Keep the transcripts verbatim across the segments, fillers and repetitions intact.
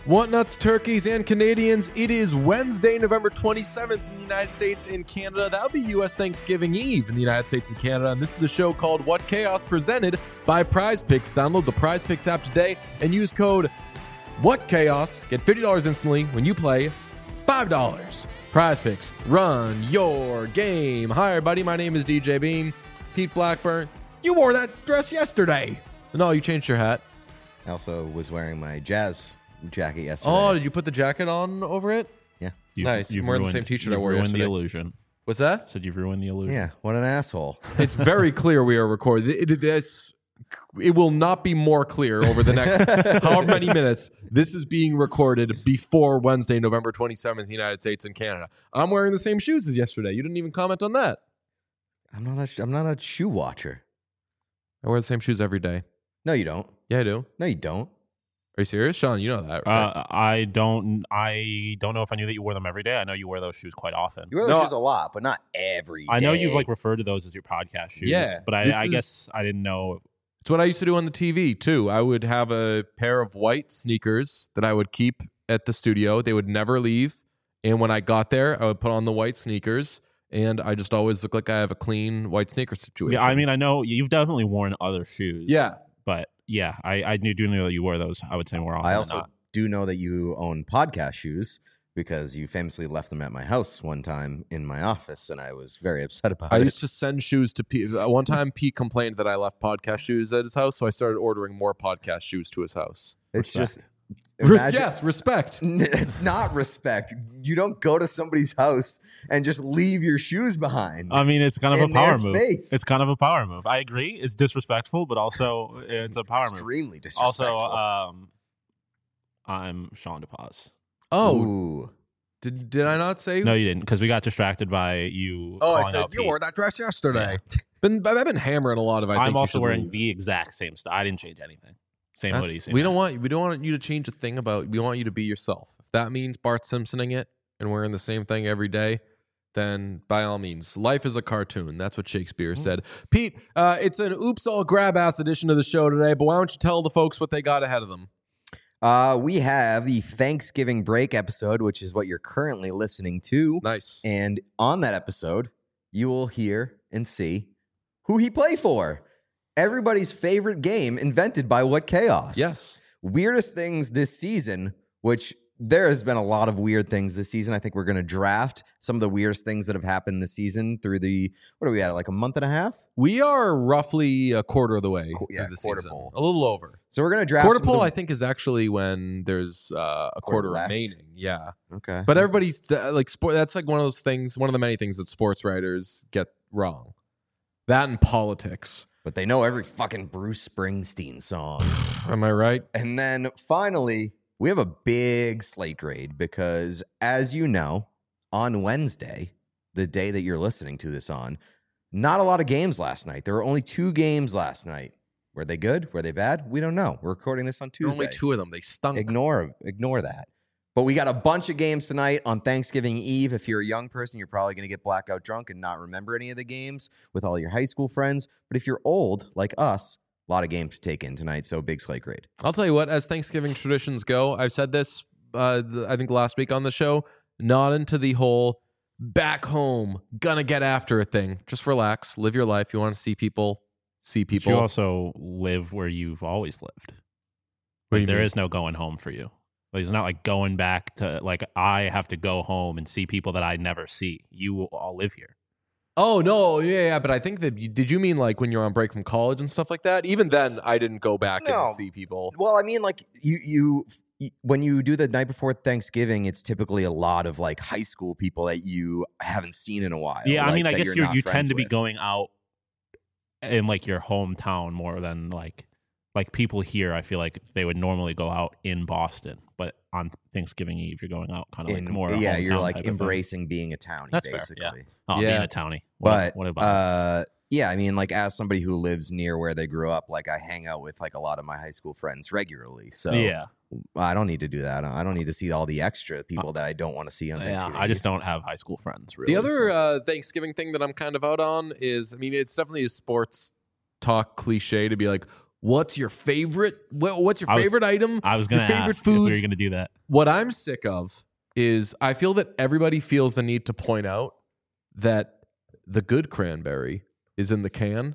Want nuts, turkeys, and Canadians? It is Wednesday, November twenty-seventh in the United States and Canada. That'll be U S Thanksgiving Eve in the United States and Canada. And this is a show called What Chaos, presented by Prize Picks. Download the Prize Picks app today and use code What Chaos. Get fifty dollars instantly when you play five dollars. Prize Picks, run your game. Hi, everybody. My name is D J Bean. Pete Blackburn. You wore that dress yesterday. No, you changed your hat. I also was wearing my jazz jacket yesterday. Oh, did you put the jacket on over it? Yeah. You've, Nice. You've I'm wearing the ruined, same t-shirt I you've wore ruined yesterday. the illusion. What's that? Said you've ruined the illusion. Yeah. What an asshole. It's very clear we are recording. Th- th- This, it will not be more clear over the next however many minutes. This is being recorded before Wednesday, November twenty-seventh, in the United States and Canada. I'm wearing the same shoes as yesterday. You didn't even comment on that. I'm not a sh- I'm not a shoe watcher. I wear the same shoes every day. No, you don't. Yeah, I do. No, you don't. Are you serious? Sean, you know that, right? Uh, I don't. I don't know if I knew that you wore them every day. I know you wear those shoes quite often. You wear those No, shoes a lot, but not every day. I know you've like referred to those as your podcast shoes. Yeah, but this I, I is- guess I didn't know. It's what I used to do on the T V, too. I would have a pair of white sneakers that I would keep at the studio. They would never leave. And when I got there, I would put on the white sneakers, and I just always look like I have a clean white sneaker situation. Yeah, I mean, I know you've definitely worn other shoes. Yeah. but yeah, I, I do know that you wore those. I would say more often. I than also not. do know that you own podcast shoes because you famously left them at my house one time in my office, and I was very upset about I it. used to send shoes to Pete. Uh, One time, Pete complained that I left podcast shoes at his house, so I started ordering more podcast shoes to his house. It's just Res- imagine- yes, respect. It's not respect. You don't go to somebody's house and just leave your shoes behind. I mean, it's kind of in a power their move. space. It's kind of a power move. I agree. It's disrespectful, but also it's a power move. Extremely disrespectful. Also, um, I'm Sean DePaz. Oh, Ooh. did did I not say? No, you didn't, because we got distracted by you. Oh, I calling said out you Pete. wore that dress yesterday. Been, I've been hammering a lot of. I think I'm you also should wearing leave. the exact same stuff. I didn't change anything. Same Uh, hoodie. Same we don't hat. want we don't want you to change a thing about. We want you to be yourself. If that means Bart Simpsoning it and wearing the same thing every day, then by all means, life is a cartoon. That's what Shakespeare said. Pete, uh, it's an oops all grab ass edition of the show today. But why don't you tell the folks what they got ahead of them? Uh, we have the Thanksgiving break episode, which is what you're currently listening to. Nice. And on that episode, you will hear and see who he played for. Everybody's favorite game invented by What Chaos. Yes. Weirdest things this season, which there has been a lot of weird things this season. I think we're going to draft some of the weirdest things that have happened this season through the, what are we at, like a month and a half? We are roughly a quarter of the way Qu- yeah, through the quarter season. pole. A little over. So we're going to draft Quarter some of pole, the- I think, is actually when there's uh, a quarter, Quarter left. remaining. Yeah. Okay. But everybody's th- like sport. That's like one of those things. One of the many things that sports writers get wrong. That and politics. But they know every fucking Bruce Springsteen song. Am I right? And then finally, we have a big slate grade because, as you know, on Wednesday, the day that you're listening to this on, not a lot of games last night. There were only two games last night. Were they good? Were they bad? We don't know. We're recording this on There were Tuesday. only two of them. They stunk. Ignore, ignore that. But we got a bunch of games tonight on Thanksgiving Eve. If you're a young person, you're probably going to get blackout drunk and not remember any of the games with all your high school friends. But if you're old, like us, a lot of games to take in tonight. So big slate grade. I'll tell you what. As Thanksgiving traditions go, I've said this. Uh, th- I think last week on the show. Not into the whole back home gonna get after it thing. Just relax. Live your life. You want to see people. See But people. you also live where you've always lived. What do Like, you there mean? is no going home for you. Like, it's not like going back to, like, I have to go home and see people that I never see. You all live here. Oh no, yeah, yeah, but I think that you, did you mean like when you're on break from college and stuff like that? Even then, I didn't go back No. and see people. Well, I mean, like you, you, y- when you do the night before Thanksgiving, it's typically a lot of like high school people that you haven't seen in a while. Yeah, I like, mean, I that guess you're you're, not you tend friends to be with. going out in, like, your hometown more than, like, like people here. I feel like they would normally go out in Boston, but on Thanksgiving Eve, you're going out kind of like In- more. a yeah, you're hometown like type of thing. embracing being a townie, That's fair, basically. yeah. Oh, Yeah. being a townie. What, But what about uh, yeah, I mean, like as somebody who lives near where they grew up, like I hang out with like a lot of my high school friends regularly. So yeah, I don't need to do that. I don't need to see all the extra people that I don't want to see on yeah. Thanksgiving. I just don't have high school friends. Really. The other so- uh, Thanksgiving thing that I'm kind of out on is, I mean, it's definitely a sports talk cliche to be like, What's your favorite? What, what's your I was- favorite item? I was going Your to favorite ask if we foods? were going to do that. What I'm sick of is I feel that everybody feels the need to point out that the good cranberry is in the can.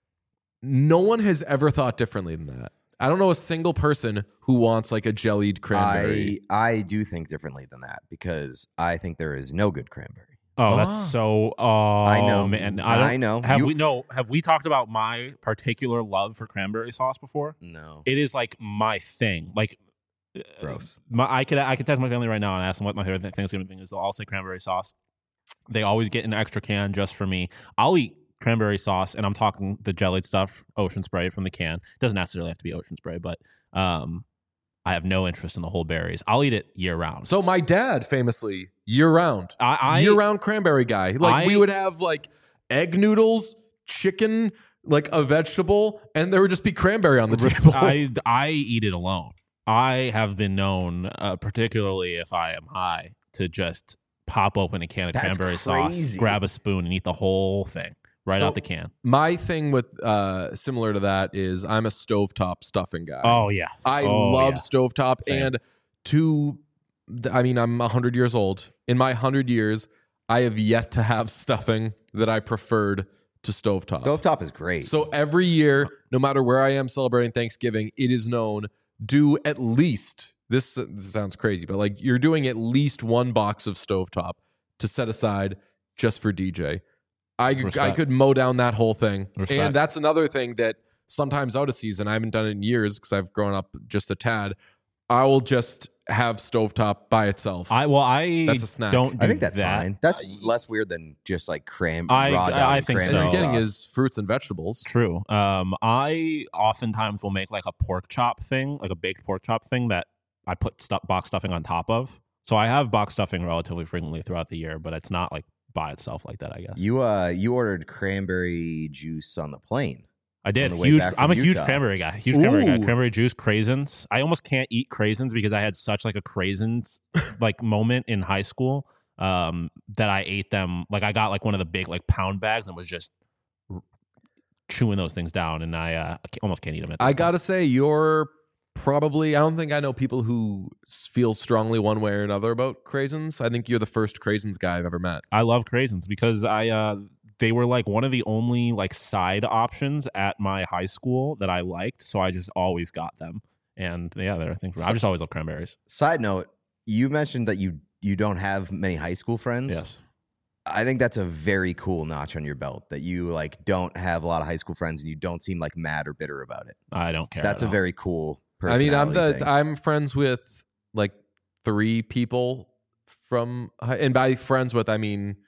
No one has ever thought differently than that. I don't know a single person who wants like a jellied cranberry. I I do think differently than that because I think there is no good cranberry. Oh, Ah. that's so. Oh, I know, man. I, don't, I know. Have You- we no? Have we talked about my particular love for cranberry sauce before? No, It is like my thing. Like, uh, gross. My, I could I could text my family right now and ask them what my favorite Thanksgiving thing is. They'll all say cranberry sauce. They always get an extra can just for me. I'll eat cranberry sauce, and I'm talking the jellied stuff, Ocean Spray from the can. It doesn't necessarily have to be Ocean Spray, but um, I have no interest in the whole berries. I'll eat it year round. So my dad famously year round, I, I year round cranberry guy. Like I- we would have like egg noodles, chicken, like a vegetable, and there would just be cranberry on the table. I I eat it alone. I have been known, uh, particularly if I am high, to just pop open a can of That's cranberry sauce, crazy. grab a spoon, and eat the whole thing right So- out the can. My thing with uh similar to that is I'm a stovetop stuffing guy. Oh yeah, I Oh, love yeah. stovetop. Same. And to, I mean, I'm one hundred years old. In my one hundred years, I have yet to have stuffing that I preferred to stovetop. Stovetop is great. So every year, no matter where I am celebrating Thanksgiving, it is known, do at least, this, this sounds crazy, but like you're doing at least one box of stovetop to set aside just for D J. I, I Respect. could mow down that whole thing. Respect. And that's another thing that sometimes out of season, I haven't done it in years because I've grown up just a tad. I will just have stovetop by itself. I well I That's a snack. don't. Do I think that's that. fine. That's less weird than just like cram. I- raw I- dog I and think and so. he's cranberry getting sauce. his fruits and vegetables. True. Um, I oftentimes will make like a pork chop thing, like a baked pork chop thing that I put stu- box stuffing on top of. So I have box stuffing relatively frequently throughout the year, but it's not like by itself like that. I guess You uh you ordered cranberry juice on the plane. I did. on the way Huge. back from I'm a huge Utah. cranberry guy. Huge cranberry guy. Ooh. Cranberry juice, craisins. I almost can't eat craisins because I had such like a craisins like moment in high school um, that I ate them. Like I got like one of the big like pound bags and was just r- chewing those things down, and I uh, I ca- almost can't eat them. At this I point. gotta say, you're probably, I don't think I know people who s- feel strongly one way or another about craisins. I think you're the first craisins guy I've ever met. I love craisins because I uh they were like one of the only like side options at my high school that I liked, so I just always got them. And yeah, they're a thing for me. I just always love cranberries. Side note, you mentioned that you you don't have many high school friends. Yes. I think that's a very cool notch on your belt that you like don't have a lot of high school friends and you don't seem like mad or bitter about it. I don't care. That's at a all. very cool I mean, I'm personality the thing. I'm friends with like three people from, hi- and by friends with I mean,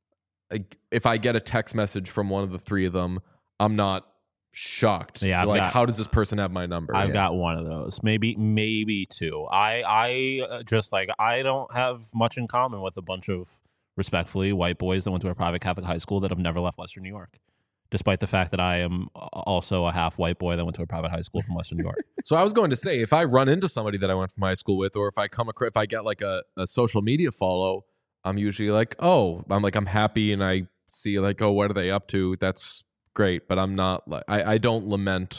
like if I get a text message from one of the three of them, I'm not shocked. Yeah, I've like got- how does this person have my number? I've Yeah. got one of those, maybe maybe two. I I uh, just like I don't have much in common with a bunch of respectfully white boys that went to a private Catholic high school that have never left Western New York, despite the fact that I am also a half white boy that went to a private high school from Western New York. So I was going to say, if I run into somebody that I went from high school with, or if I come across, if I get like a, a social media follow, I'm usually like, oh, I'm like, I'm happy, and I see like, oh, what are they up to? That's great, but I'm not like, I, I don't lament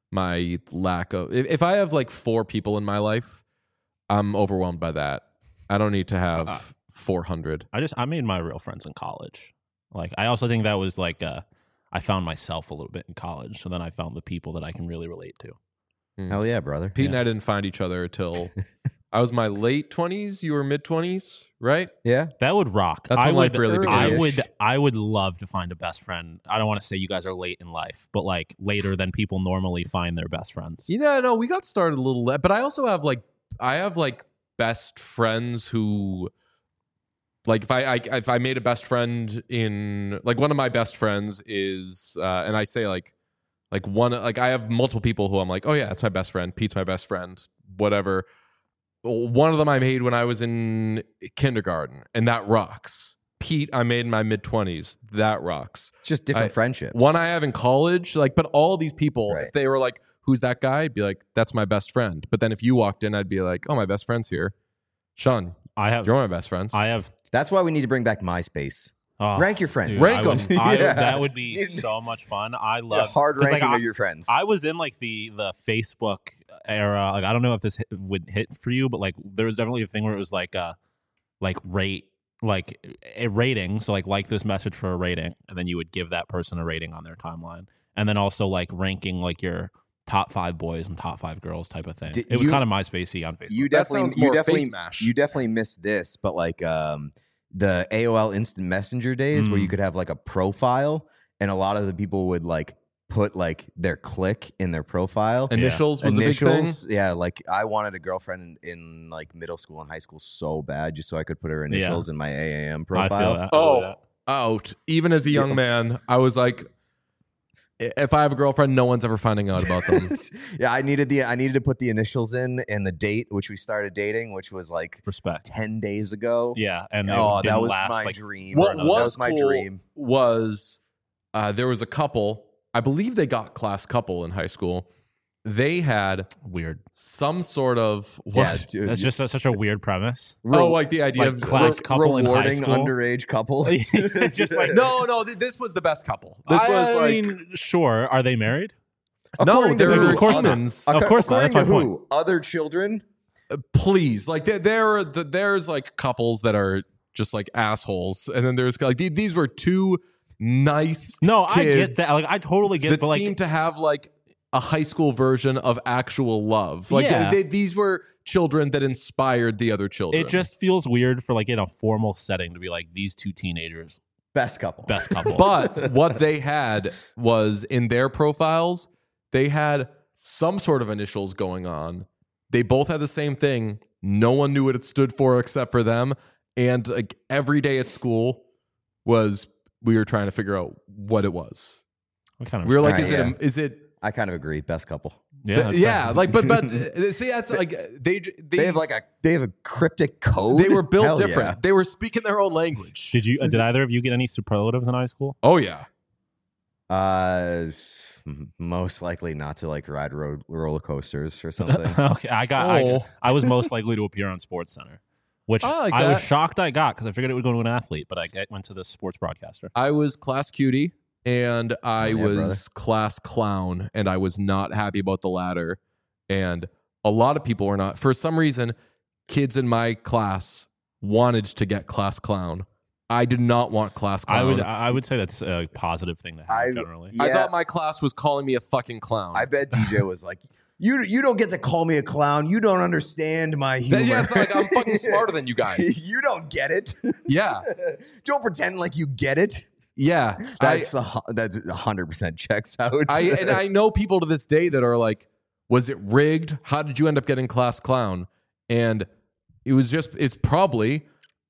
my lack of. If, if I have like four people in my life, I'm overwhelmed by that. I don't need to have Uh, four hundred. I just I made my real friends in college. Like I also think that was like uh, I found myself a little bit in college, so then I found the people that I can really relate to. Hell yeah, brother. Pete and Yeah. I didn't find each other till I was my late twenties. You were mid twenties, right? Yeah. That would rock. That's I when would, life really I began. would I would love to find a best friend. I don't want to say you guys are late in life, but like later than people normally find their best friends. You know, no, we got started a little late, but I also have like, I have like best friends who, like, if I, I if I made a best friend in, like, one of my best friends is, uh, and I say like, like one, like I have multiple people who I'm like, oh yeah, that's my best friend. Pete's my best friend. Whatever. One of them I made when I was in kindergarten, and that rocks. Pete, I made in my mid twenties. That rocks. It's just different I- friendships. One I have in college, like, but all these people, Right. if they were like, who's that guy? I'd be like, that's my best friend. But then if you walked in, I'd be like, oh, my best friend's here. Sean, I have you're one of my best friends. I have That's why we need to bring back MySpace. Oh, Rank your friends. dude, Rank I would- 'em. I would- Yeah. That would be so much fun. I Yeah, love hard 'cause, ranking like, I, of your friends. I was in like the the Facebook era. Like I don't know if this hit, would hit for you, but like there was definitely a thing where it was like uh like rate like a rating. So like like this message for a rating, and then you would give that person a rating on their timeline, and then also like ranking like your top five boys and top five girls type of thing. Did it was you- kind of MySpacey on Facebook. you That definitely, sounds you more definitely, face mash. you definitely missed this, but like um, the A O L Instant Messenger days where you Mm. could have like a profile, and a lot of the people would like put like their click in their profile. Initials was a big thing. Initials, yeah. Like I wanted a girlfriend in, in like middle school and high school so bad, just so I could put her initials in my A A M I profile. feel that. I feel Oh, that. out. Even as a young Yeah. man, I was like, i- if I have a girlfriend, no one's ever finding out about them. Yeah, I needed the I needed to put the initials in and the date which we started dating, which was like Respect. ten days ago. Yeah, and it Oh, that didn't was last, my like, dream. What that was was my cool dream. was uh, there was a couple. I believe they got class couple in high school. They had weird. some sort of what? Yeah, dude. That's just a, such a weird premise. oh, like the idea like of class Re- couple in high rewarding school. underage couples. It's just like no, no. th- This was the best couple. This I was like mean, sure. Are they married? no, According to they're who? of course not. humans. Of course not. According That's to my who? Other children. Please, like there, there, there's like couples that are just like assholes, and then there's like th- these were two nice. No, I get kids that. Like I totally get. that But like, seem to have like a high school version of actual love. Like Yeah. they, they, these were children that inspired the other children. it just feels weird for like in a formal setting to be like these two teenagers, Best couple. best couple. But what they had was in their profiles, they had some sort of initials going on. They both had the same thing. No one knew what it stood for except for them. And like every day at school was we were trying to figure out what it was. What kind of We were like, Right, is yeah. it? A, is it? I kind of agree. Best couple. yeah, th- that's yeah. fair. Like, but but uh, see, that's like they they They have like a they have a cryptic code. they were built Hell different. yeah. They were speaking their own language. Did you? Uh, did either of you get any superlatives in high school? Oh yeah. Uh, s- m- most likely not to like ride road roller coasters or something. Okay, I got. I, Oh. I was most likely to appear on Sports Center, which I like I was that. shocked I got because I figured it would go to an athlete, but I get- went to the sports broadcaster. I was class cutie and I Oh, yeah, was brother. class clown, and I was not happy about the latter. And a lot of people were not. For some reason, kids in my class wanted to get class clown. I did not want class clown. I would. I would say that's a positive thing to have I- generally. Yeah. I thought my class was calling me a fucking clown. I bet D J was like, "You you don't get to call me a clown. You don't understand my humor. That- yeah, it's like I'm fucking smarter than you guys. you don't get it. Yeah, Don't pretend like you get it." yeah. I, That's a, hu- that's a hundred percent checks out. I and I know people to this day that are like, was it rigged? How did you end up getting class clown? And it was just it's probably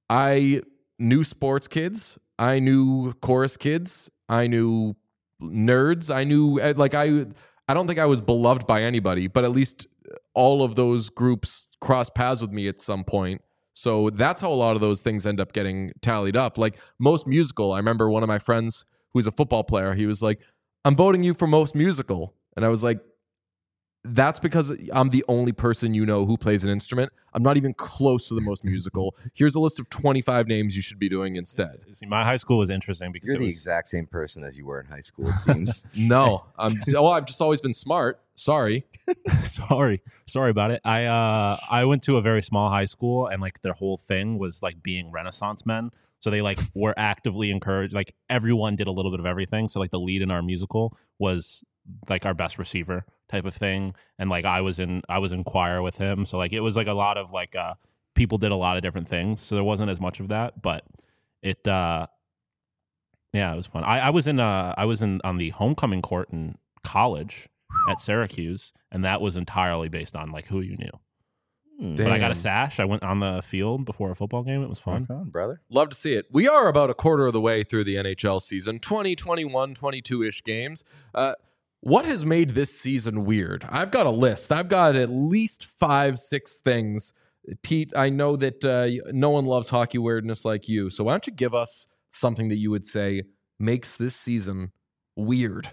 I knew sports kids, I knew chorus kids, I knew nerds, I knew uh, like I I don't think I was beloved by anybody, but at least all of those groups crossed paths with me at some point. So that's how a lot of those things end up getting tallied up. Like most musical, I remember one of my friends who's a football player, he was like, I'm voting you for most musical. And I was like, that's because I'm the only person you know who plays an instrument. I'm not even close to the most musical. Here's a list of twenty-five names you should be doing instead. See, my high school was interesting because You're it the was, exact same person as you were in high school. It seems. No, I'm oh, I've just always been smart. Sorry. sorry, sorry about it. I uh, I went to a very small high school, and like their whole thing was like being Renaissance men. So they like were actively encouraged. Like everyone did a little bit of everything. So like the lead in our musical was like our best receiver type of thing, and like I was in I was in choir with him. So like it was like a lot of like uh people did a lot of different things. So there wasn't as much of that, but it uh yeah, it was fun. I, I was in uh I was in on the homecoming court in college at Syracuse, and that was entirely based on like who you knew. Hmm. But I got a Damn. sash. I went on the field before a football game. It was fun. Rock on, brother. Love to see it. We are about a quarter of the way through the N H L season, twenty, twenty-one, twenty-two-ish games. Uh, what has made this season weird? I've got a list. I've got at least five, six things. Pete, I know that uh, no one loves hockey weirdness like you. So why don't you give us something that you would say makes this season weird?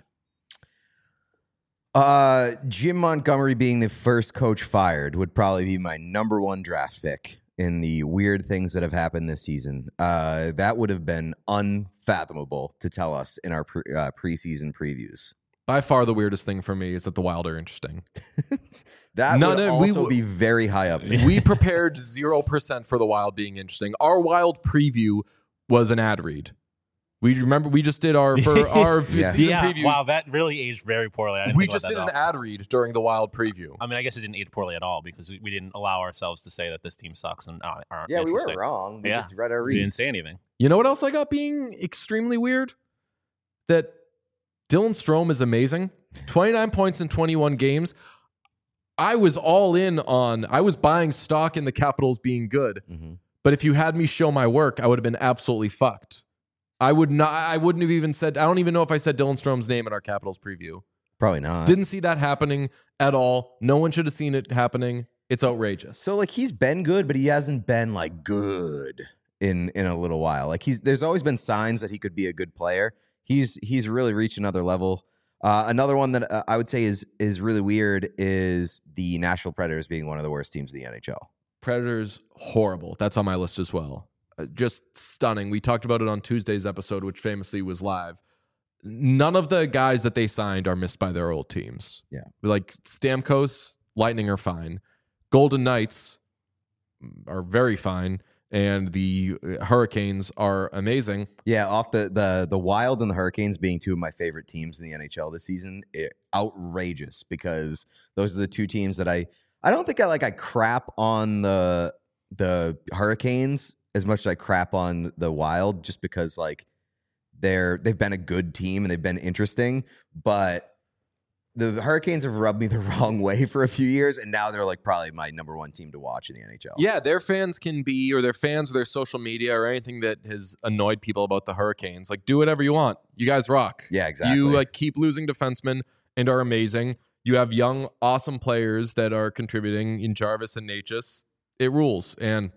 Uh, Jim Montgomery being the first coach fired would probably be my number one draft pick in the weird things that have happened this season. Uh, that would have been unfathomable to tell us in our pre- uh, preseason previews. By far the weirdest thing for me is that the Wild are interesting. That None would of- also we w- be very high up there. We prepared zero percent for the Wild being interesting. Our Wild preview was an ad read. We remember we just did our for our Yeah. season Yeah, previews. wow, that really aged very poorly. I didn't We think just about did that an at all. ad read during the Wild preview. I mean, I guess it didn't age poorly at all because we, we didn't allow ourselves to say that this team sucks and aren't aren't Yeah, we interesting. weren't wrong. We Yeah. just read our We reads. didn't say anything. You know what else I got being extremely weird? That Dylan Strome is amazing. twenty-nine points in twenty-one games. I was all in on, I was buying stock in the Capitals being good. Mm-hmm. But if you had me show my work, I would have been absolutely fucked. I would not, I wouldn't have even said, I don't even know if I said Dylan Strome's name in our Capitals preview. Probably not. Didn't see that happening at all. No one should have seen it happening. It's outrageous. So like he's been good, but he hasn't been like good in in a little while. Like he's there's always been signs that he could be a good player. He's he's really reached another level. Uh, another one that uh, I would say is is really weird is the Nashville Predators being one of the worst teams in the N H L. Predators, horrible. That's on my list as well. Uh, just stunning. We talked about it on Tuesday's episode, which famously was live. None of the guys that they signed are missed by their old teams. Yeah. Like Stamkos, Lightning are fine. Golden Knights are very fine. And the Hurricanes are amazing. Yeah, off the the the Wild and the Hurricanes being two of my favorite teams in the N H L this season, it, outrageous because those are the two teams that I I don't think I like I crap on the the Hurricanes as much as I crap on the Wild just because like they're they've been a good team and they've been interesting, but the Hurricanes have rubbed me the wrong way for a few years, and now they're like probably my number one team to watch in the N H L. Yeah, their fans can be, or their fans or their social media or anything that has annoyed people about the Hurricanes. Like, do whatever you want. You guys rock. Yeah, exactly. You like keep losing defensemen and are amazing. You have young, awesome players that are contributing in Jarvis and Natchez. It rules. And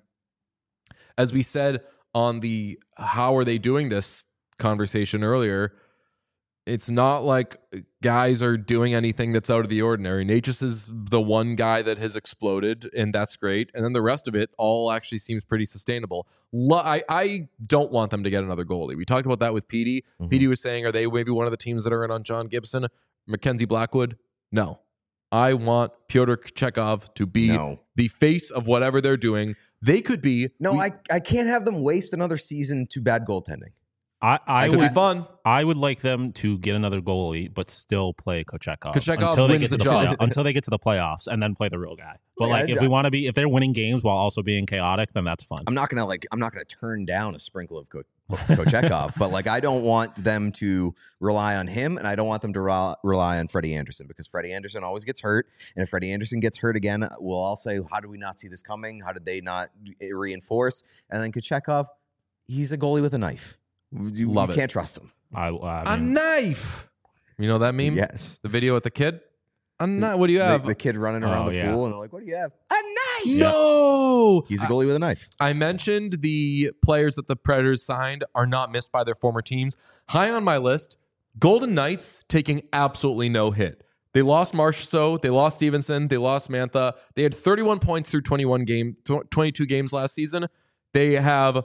as we said on the how are they doing this conversation earlier, it's not like guys are doing anything that's out of the ordinary. Natchez is the one guy that has exploded, and that's great. And then the rest of it all actually seems pretty sustainable. Lo- I, I don't want them to get another goalie. We talked about that with Petey. Mhm. Petey was saying, are they maybe one of the teams that are in on John Gibson? Mackenzie Blackwood? No. I want Pyotr Chekhov to be No. the face of whatever they're doing. They could be. No, we, I, I can't have them waste another season to bad goaltending. I, I It could would be fun. I would like them to get another goalie, but still play Kochekov, Kochekov until they wins get the to job. play- until they get to the playoffs, and then play the real guy. But Yeah, like, if I- we want to be, if they're winning games while also being chaotic, then that's fun. I'm not gonna like I'm not gonna turn down a sprinkle of Ko- Kochekov, but like I don't want them to rely on him, and I don't want them to ra- rely on Freddie Anderson because Freddie Anderson always gets hurt, and if Freddie Anderson gets hurt again, we'll all say, how did we not see this coming? How did they not reinforce? And then Kochekov, he's a goalie with a knife. You, Love you it. can't trust him. I, I A mean, knife. You know that meme? Yes. The video with the kid? A knife. What do you The, have? the kid running around Oh, the yeah. pool, and they're like, what do you have? A knife! No. He's a goalie with a knife. I mentioned the players that the Predators signed are not missed by their former teams. High on my list, Golden Knights taking absolutely no hit. They lost Marchessault, they lost Stevenson, they lost Mantha. They had thirty-one points through twenty-one game, tw- twenty-two games last season. They have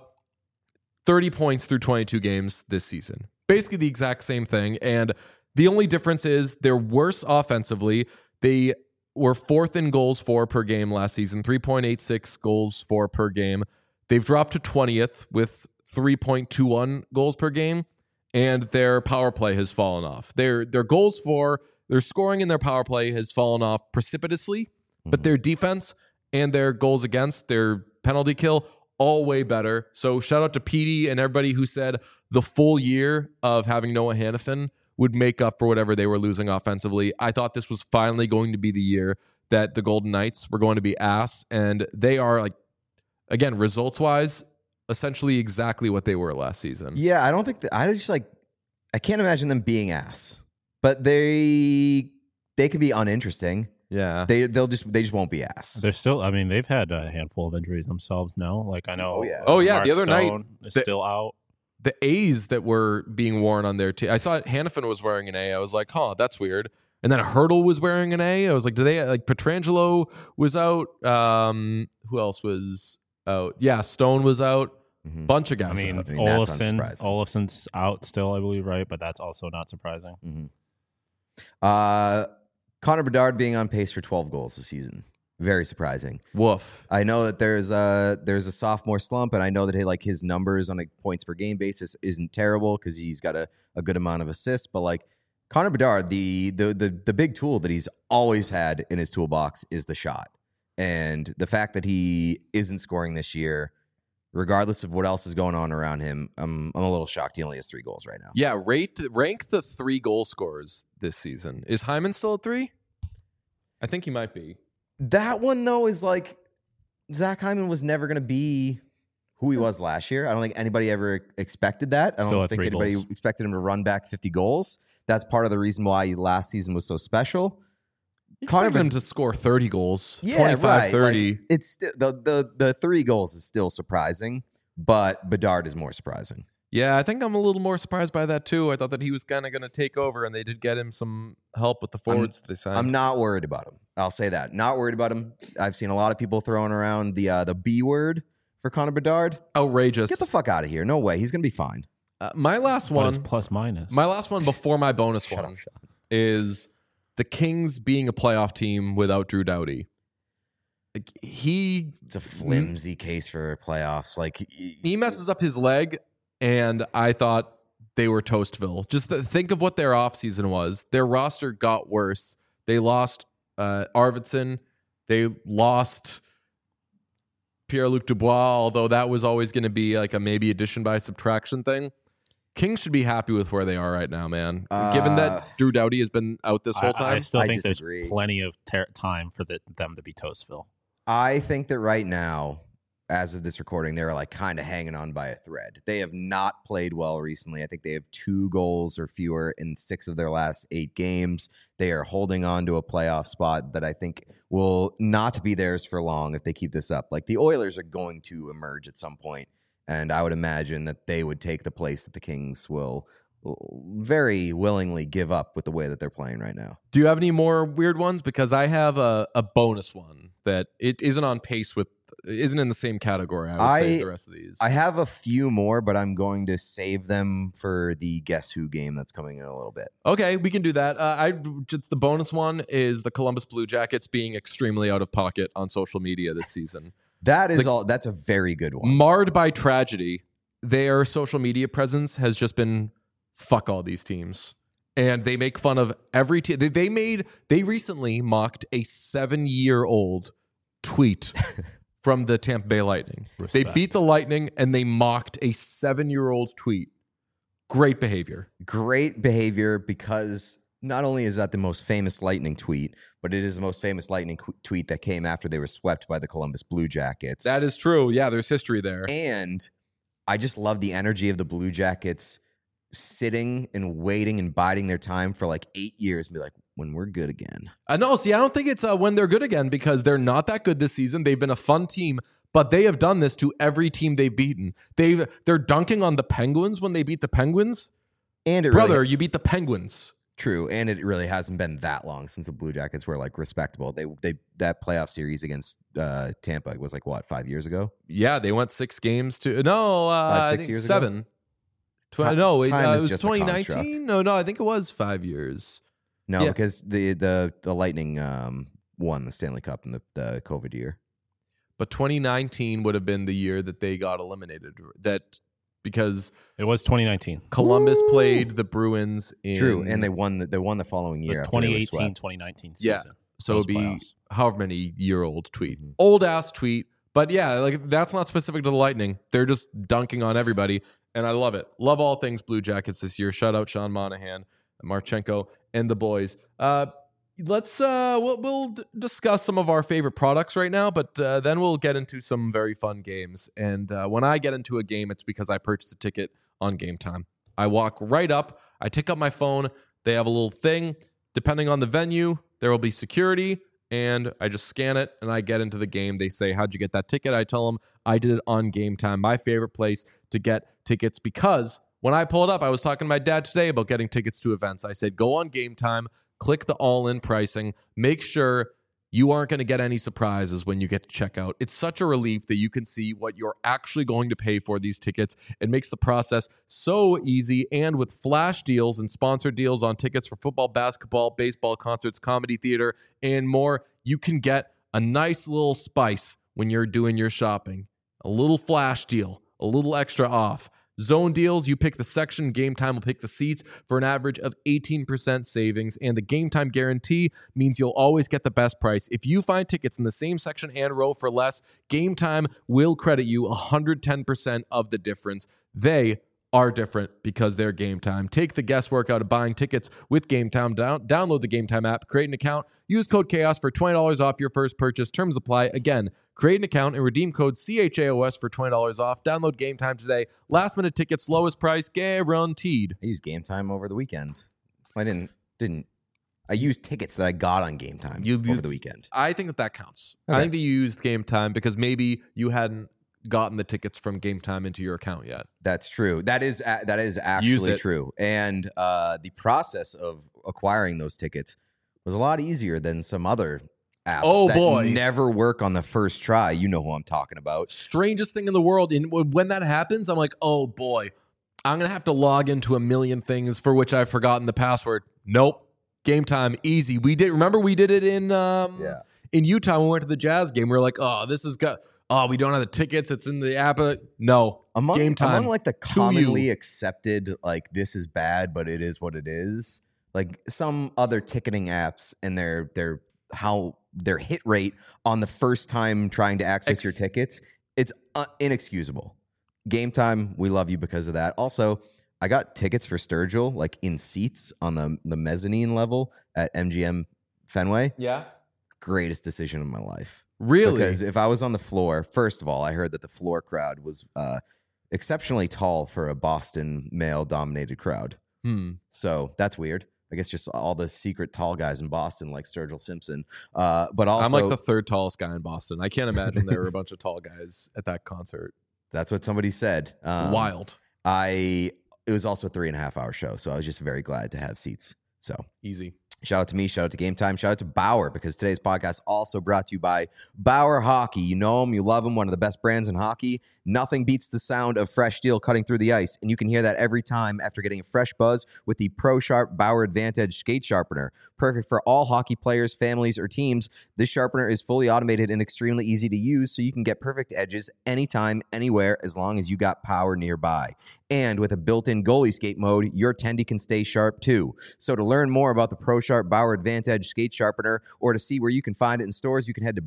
thirty points through twenty-two games this season. Basically the exact same thing. And the only difference is they're worse offensively. They were fourth in goals for per game last season, three point eight six goals for per game. They've dropped to twentieth with three point two one goals per game, and their power play has fallen off. Their their goals for, their scoring in their power play has fallen off precipitously, but their defense and their goals against, their penalty kill, all way better. So shout out to Petey and everybody who said the full year of having Noah Hannafin would make up for whatever they were losing offensively. I thought this was finally going to be the year that the Golden Knights were going to be ass, and they are, like, again, results-wise, essentially exactly what they were last season. Yeah, I don't think that, I just like I can't imagine them being ass, but they they could be uninteresting. Yeah. They they'll just they just won't be ass. they're still. I mean, they've had a handful of injuries themselves now. Like I know. Oh, yeah. Oh, yeah, Mark the other night, Stone is the- still out. The A's that were being worn on their team. I saw Hannafin was wearing an A. I was like, huh, that's weird. And then Hurdle was wearing an A. I was like, do they, like, Petrangelo was out. Um, who else was, out. Yeah, Stone was out. Mhm. Bunch of I guys mean, out. I mean, that's Olafson, unsurprising. Olafson's out still, I believe, right? But that's also not surprising. Mm-hmm. Uh, Connor Bedard being on pace for twelve goals this season. Very surprising. Woof. I know that there's a there's a sophomore slump, and I know that he, like his numbers on a points per game basis isn't terrible because he's got a, a good amount of assists. But like Connor Bedard, the, the the the big tool that he's always had in his toolbox is the shot, and the fact that he isn't scoring this year, regardless of what else is going on around him, I'm I'm a little shocked. He only has three goals right now. Yeah, rate rank the three goal scorers this season. Is Hyman still at three? I think he might be. That one, though, is like Zach Hyman was never going to be who he was last year. I don't think anybody ever expected that. I Still don't at think three anybody goals. expected him to run back fifty goals. That's part of the reason why last season was so special. You Connor expected him Bed- to score thirty goals, Yeah, twenty-five, right. thirty. Like, it's still the, the the three goals is still surprising, but Bedard is more surprising. Yeah, I think I'm a little more surprised by that too. I thought that he was kind of going to take over, and they did get him some help with the forwards they signed. I'm not worried about him. I'll say that. Not worried about him. I've seen a lot of people throwing around the uh, the B word for Connor Bedard. outrageous. Get the fuck out of here. No way. He's going to be fine. Uh, my last What is one, plus minus? my last one before my bonus Shut one up, Sean. is the Kings being a playoff team without Drew Doughty. Like, he It's a flimsy case for playoffs. Like he messes up his leg, and I thought they were Toastville. Just th- think of what their offseason was. Their roster got worse. They lost uh, Arvidsson. They lost Pierre-Luc Dubois, although that was always going to be like a maybe addition by subtraction thing. Kings should be happy with where they are right now, man. Uh, Given that Drew Doughty has been out this whole I, I time. still I think disagree. there's plenty of ter- time for the, them to be Toastville. I think that right now, as of this recording, they're like kind of hanging on by a thread. They have not played well recently. I think they have two goals or fewer in six of their last eight games. They are holding on to a playoff spot that I think will not be theirs for long if they keep this up. Like the Oilers are going to emerge at some point, and I would imagine that they would take the place that the Kings will will very willingly give up with the way that they're playing right now. Do you have any more weird ones? Because I have a, a bonus one that it isn't on pace with, isn't in the same category, I would say, I- as the rest of these. I have a few more, but I'm going to save them for the Guess Who game that's coming in a little bit. Okay, we can do that. Uh, I just the bonus one is the Columbus Blue Jackets being extremely out of pocket on social media this season. That is Like- all. That's a very good one. Marred by tragedy, their social media presence has just been fuck all these teams. And they make fun of every team. They, they made, they recently mocked a seven year old tweet from the Tampa Bay Lightning. They Respect. beat the Lightning and they mocked a seven year old tweet. Great behavior. Great behavior because not only is that the most famous Lightning tweet, but it is the most famous Lightning qu- tweet that came after they were swept by the Columbus Blue Jackets. That is true. Yeah, there's history there. And I just love the energy of the Blue Jackets sitting and waiting and biding their time for like eight years and be like, when we're good again. Uh, no, see, I don't think it's uh, when they're good again because they're not that good this season. They've been a fun team, but they have done this to every team they've beaten. They've they're dunking on the Penguins when they beat the Penguins. And it Brother, really, you beat the Penguins. true. And it really hasn't been that long since the Blue Jackets were like respectable. They they that playoff series against uh, Tampa was like what, five years ago? Yeah, they went six games to no, uh, Five, I six think years ago? seven. Tw- Ti- no, it, time uh, is it was just a twenty construct. nineteen. No, no, I think it was five years. No, Yeah. because the the the Lightning um, won the Stanley Cup in the, the COVID year. But twenty nineteen would have been the year that they got eliminated. That because It was twenty nineteen. Columbus Woo! played the Bruins in True, and they won. The, they won the following year. The after they were twenty eighteen swept. twenty nineteen Yeah. season. So Those it'd be playoffs. however many year old tweet. Mhm. Old ass tweet. But yeah, like that's not specific to the Lightning. They're just dunking on everybody. And I love it. Love all things Blue Jackets this year. Shout out Sean Monahan, Marchenko, and the boys. Uh, let's uh, we'll, we'll d- discuss some of our favorite products right now, but uh, then we'll get into some very fun games. And uh, when I get into a game, it's because I purchased a ticket on Game Time. I walk right up. I take up my phone. They have a little thing. Depending on the venue, there will be security. And I just scan it and I get into the game. They say, how'd you get that ticket? I tell them I did it on Game Time, my favorite place to get tickets, because when I pull it up, I was talking to my dad today about getting tickets to events. I said, go on Game Time, click the all-in pricing, make sure you aren't going to get any surprises when you get to check out. It's such a relief that you can see what you're actually going to pay for these tickets. It makes the process so easy. And with flash deals and sponsored deals on tickets for football, basketball, baseball, concerts, comedy, theater, and more, you can get a nice little spice when you're doing your shopping. A little flash deal, a little extra off. Zone deals, you pick the section, Game Time will pick the seats for an average of eighteen percent savings, and the Game Time guarantee means you'll always get the best price. If you find tickets in the same section and row for less, Game Time will credit you one hundred ten percent of the difference. They are different because they're Game Time. Take the guesswork out of buying tickets with Game Time. Down- download the Game Time app, create an account, use code CHAOS for twenty dollars off your first purchase. Terms apply. Again, create an account and redeem code C H A O S for twenty dollars off. Download Game Time today. Last minute tickets, lowest price guaranteed. I used Game Time over the weekend. I didn't didn't. I used tickets that I got on Game Time You- you- over the weekend. I think that that counts. Okay. I think that you used Game Time because maybe you hadn't gotten the tickets from Game Time into your account yet. That's true. That is a- that is Use actually it. true. And uh, the process of acquiring those tickets was a lot easier than some other apps Oh, that boy. never work on the first try. You know who I'm talking about. Strangest thing in the world. And when that happens, I'm like, oh boy, I'm going to have to log into a million things for which I've forgotten the password. Nope. Game Time, easy. We did, remember we did it in um, Yeah. in Utah when we went to the Jazz game. We were like, oh, this has got, oh, we don't have the tickets. It's in the app. No. Among, Game Time. among like the to commonly you. accepted, like this is bad, but it is what it is. Like some other ticketing apps and their their how their hit rate on the first time trying to access Ex- your tickets, it's uh, inexcusable. Game Time, we love you because of that. Also, I got tickets for Sturgill like in seats on the the mezzanine level at M G M Fenway. Yeah. Greatest decision of my life. Really? Because if I was on the floor, first of all, I heard that the floor crowd was uh, exceptionally tall for a Boston male-dominated crowd. Hmm. So that's weird. I guess just all the secret tall guys in Boston, like Sturgill Simpson. Uh, but also, I'm like the third tallest guy in Boston. I can't imagine there were a bunch of tall guys at that concert. that's what somebody said. Um, Wild. I it was also a three and a half hour show, so I was just very glad to have seats. So Easy. shout out to me, shout out to Game Time, shout out to Bauer, because today's podcast also brought to you by Bauer Hockey. You know them, you love them, one of the best brands in hockey. Nothing beats the sound of fresh steel cutting through the ice, and you can hear that every time after getting a fresh buzz with the Pro Sharp Bauer Advantage Skate Sharpener. Perfect for all hockey players, families, or teams. This sharpener is fully automated and extremely easy to use, so you can get perfect edges anytime, anywhere, as long as you got power nearby. And with a built-in goalie skate mode, your tendy can stay sharp too. So to learn more about the Pro Sharp Bauer Advantage Skate Sharpener, or to see where you can find it in stores, you can head to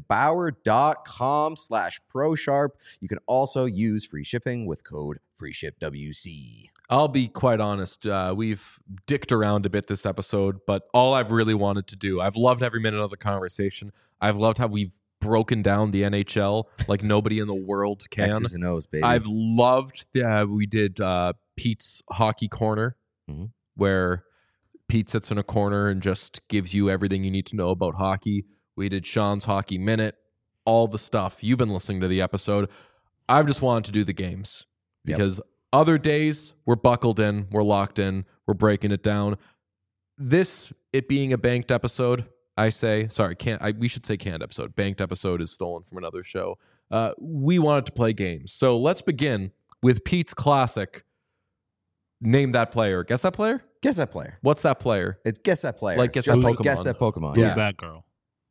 bauer.com slash ProSharp. You can also use free shipping with code FreeShipWC. I'll be quite honest. Uh, we've dicked around a bit this episode, but all I've really wanted to do, I've loved every minute of the conversation. I've loved how we've broken down the N H L like nobody in the world can. X's and O's, baby. I've loved that we did uh, Pete's Hockey Corner, Mhm. where Pete sits in a corner and just gives you everything you need to know about hockey. We did Sean's Hockey Minute, all the stuff. You've been listening to the episode. I've just wanted to do the games Yep. because other days we're buckled in, we're locked in, we're breaking it down. This, it being a banked episode, I say, sorry, can't I, we should say canned episode. Banked episode is stolen from another show. Uh, we wanted to play games. So let's begin with Pete's classic. Name that player. Guess that player? Guess that player. What's that player? It's guess that player. Like guess Just that like Pokemon. guess that Pokemon. Who's Yeah. that girl?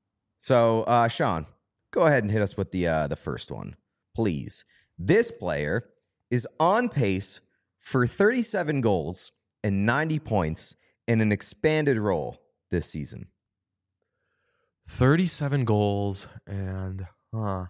So, uh, Sean, go ahead and hit us with the uh, the first one, please. This player is on pace for thirty-seven goals and ninety points in an expanded role this season. thirty-seven goals and huh.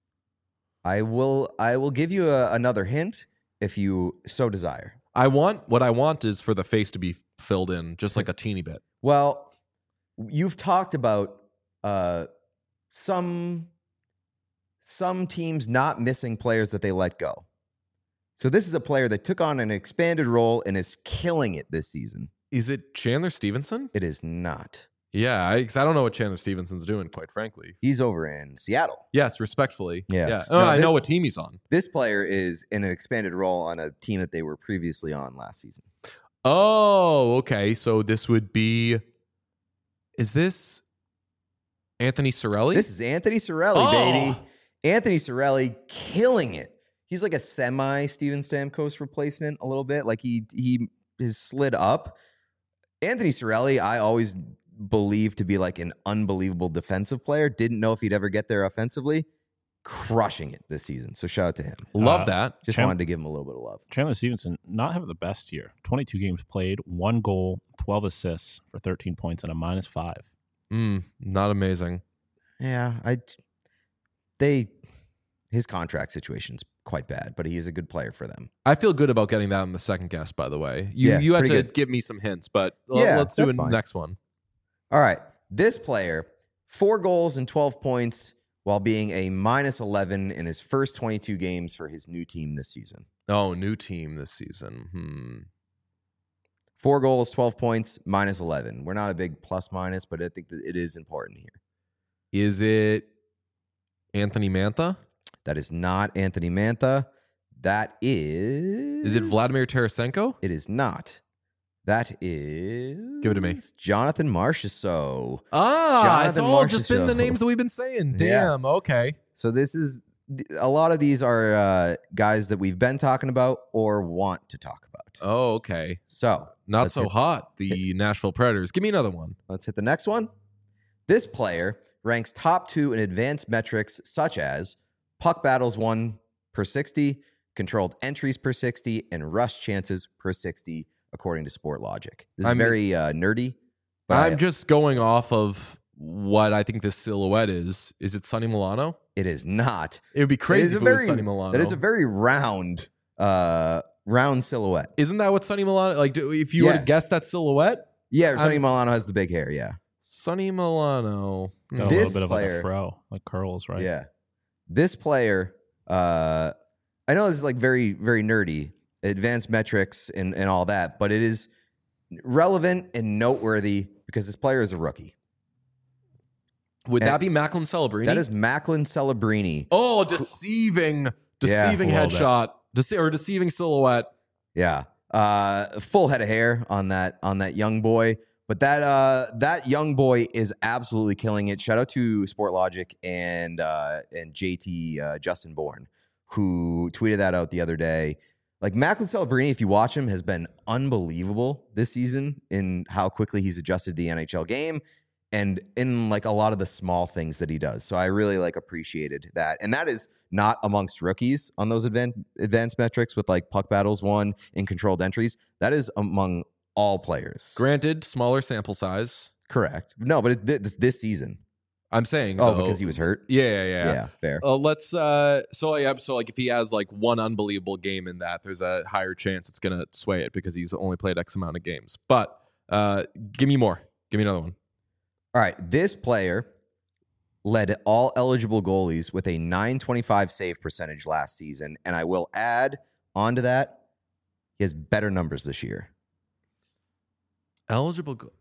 I will I will give you a, another hint if you so desire. I want what I want is for the face to be filled in just like a teeny bit. Well, you've talked about uh, some some teams not missing players that they let go. So this is a player that took on an expanded role and is killing it this season. Is it Chandler Stevenson? It is not. Yeah, I, 'cause I don't know what Chandler Stevenson's doing, quite frankly. He's over in Seattle. Yes, respectfully. Yeah. yeah. No, Oh, I thi- know what team he's on. This player is in an expanded role on a team that they were previously on last season. Oh, okay. So this would be. Is this? Anthony Cirelli? This is Anthony Cirelli, Oh. baby. Anthony Cirelli killing it. He's like a semi Steven Stamkos replacement a little bit. Like he he has slid up. Anthony Cirelli, I always believed to be like an unbelievable defensive player. Didn't know if he'd ever get there offensively. Crushing it this season. So shout out to him. Love Uh, that. Just Chan- wanted to give him a little bit of love. Chandler Stevenson not having the best year. twenty-two games played, one goal, twelve assists for thirteen points and a minus five. Mm, not amazing. Yeah, I they his contract situation's quite bad, but he is a good player for them. I feel good about getting that in the second guess, by the way. You Yeah, you had to pretty good. give me some hints, but l- Yeah, let's do that's a fine. next one. All right. This player, four goals and twelve points while being a minus eleven in his first twenty-two games for his new team this season. Oh, new team this season. Hmm. Four goals, twelve points, minus eleven. We're not a big plus minus, but I think that it is important here. Is it Anthony Mantha? That is not Anthony Mantha. That is... Is it Vladimir Tarasenko? It is not. That is... Give it to me. Jonathan Marchessault. Ah, it's Jonathan all just been the Marchessault. names that we've been saying. Yeah. Damn, okay. So this is... A lot of these are uh, guys that we've been talking about or want to talk about. Oh, okay. So Not let's so hit- hot, the Nashville Predators. Give me another one. Let's hit the next one. This player ranks top two in advanced metrics such as puck battles won per sixty, controlled entries per sixty, and rush chances per sixty, according to Sport Logic. This is I'm- very uh, nerdy. But I'm I- just going off of what I think this silhouette is. Is it Sonny Milano? it is not. It would be It crazy is a if it was very- Sonny Milano. That is a very round, uh, round silhouette. Isn't that what Sonny Milano, like, do- if you were Yeah. to guess that silhouette? Yeah, Sonny I'm- Milano has the big hair. Yeah, Sonny Milano. Got This a little bit of like player- a fro, like curls, right? yeah. This player, uh, I know this is like very, very nerdy, advanced metrics and and all that, but it is relevant and noteworthy because this player is a rookie. Would And that be Macklin Celebrini? That is Macklin Celebrini. Oh, deceiving, Yeah, deceiving a little bit. headshot, Dece- or deceiving silhouette. Yeah. Uh, full head of hair on that on that young boy. But that uh, that young boy is absolutely killing it. Shout out to Sport Logic and uh, and J T uh, Justin Bourne, who tweeted that out the other day. Like Macklin Celebrini, if you watch him, has been unbelievable this season in how quickly he's adjusted to the N H L game and in like a lot of the small things that he does. So I really like appreciated that. And that is not amongst rookies on those advanced advanced metrics with like puck battles won and controlled entries. That is among all players. Granted, smaller sample size. Correct. No, but it, this this season. I'm saying. Oh, though- because he was hurt. Yeah, yeah, yeah. Yeah, fair. Uh, let's. Uh, so yeah. So like, if he has like one unbelievable game in that, there's a higher chance it's gonna sway it because he's only played X amount of games. But uh, give me more. Give me another one. All right, this player led all eligible goalies with a nine twenty-five save percentage last season, and I will add onto that, he has better numbers this year. Eligible. Go-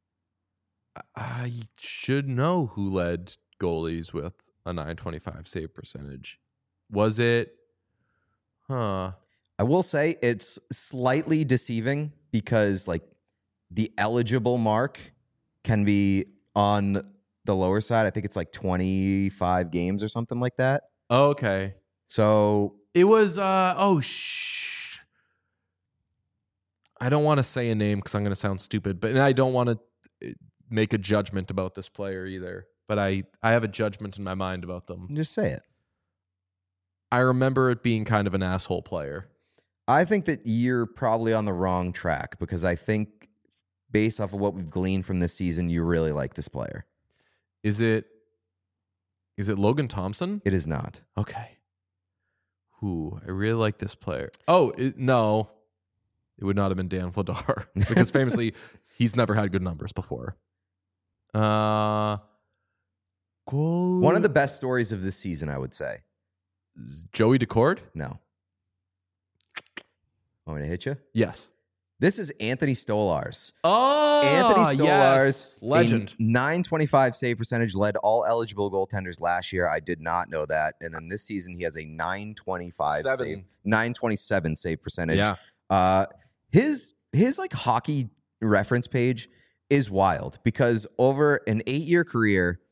I should know who led goalies with a nine twenty-five save percentage. Was it? Huh. I will say it's slightly deceiving because like the eligible mark can be on the lower side. I think it's like twenty-five games or something like that. Okay. So It was. Uh. Oh shh. I don't want to say a name because I'm going to sound stupid, but and I don't want to make a judgment about this player either. But I, I have a judgment in my mind about them. just say it. I remember it being kind of an asshole player. I think that you're probably on the wrong track because I think based off of what we've gleaned from this season, you really like this player. Is it? Is it Logan Thompson? It is not. Okay. Who? I really like this player. Oh, it, no. It would not have been Dan Vladar because famously he's never had good numbers before. Uh, goal- One of the best stories of this season, I would say. Joey Decord? No. Want me to hit you? Yes. This is Anthony Stolars. Oh, Anthony Stolars, yes. Legend. nine twenty-five save percentage, led all eligible goaltenders last year. I did not know that. And then this season, he has a nine twenty-five Seven. save, nine twenty-seven save percentage. Yeah. Uh, his his like hockey reference page is wild because over an eight year career,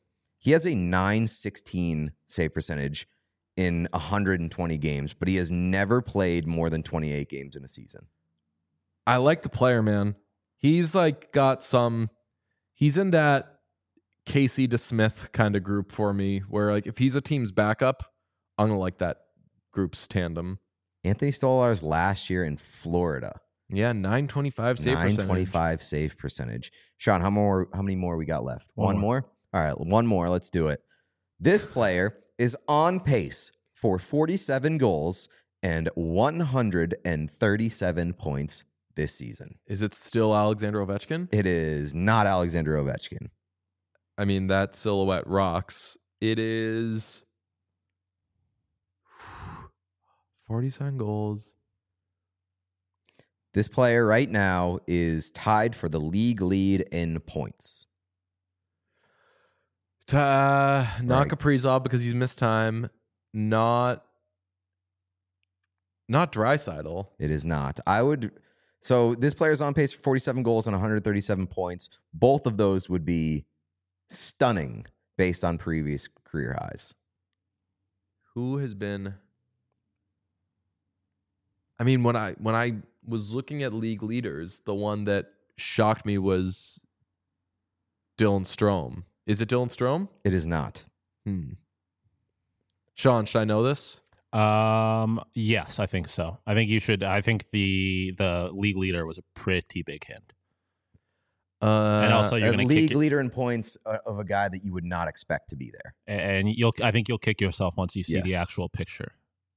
He has a nine sixteen save percentage in one hundred twenty games, but he has never played more than twenty-eight games in a season. I like the player, man. He's like got some, he's in that Casey DeSmith kind of group for me, where like if he's a team's backup, I'm going to like that group's tandem. Anthony Stolarz last year in Florida. Yeah, nine twenty-five save percentage. nine twenty-five save percentage. Sean, how more? How many more we got left? One One, more. more? All right, one more. Let's do it. This player is on pace for forty-seven goals and one hundred thirty-seven points this season. Is it still Alexander Ovechkin? It is not Alexander Ovechkin. I mean, that silhouette rocks. It is forty-seven goals. This player right now is tied for the league lead in points. Uh, not Right. Kaprizov because he's missed time. Not not Draisaitl. It is not. I would. So this player is on pace for forty-seven goals and one hundred thirty-seven points. Both of those would be stunning based on previous career highs. Who has been? I mean, when I when I was looking at league leaders, the one that shocked me was Dylan Strome. Is it Dylan Strome? It is not. Hmm. Sean, should I know this? Um, yes, I think so. I think you should. I think the the league leader was a pretty big hint, Uh, and also you're A going to league kick. It, leader in points uh, of a guy that you would not expect to be there. and you'll. I think you'll kick yourself once you see the Yes. actual picture.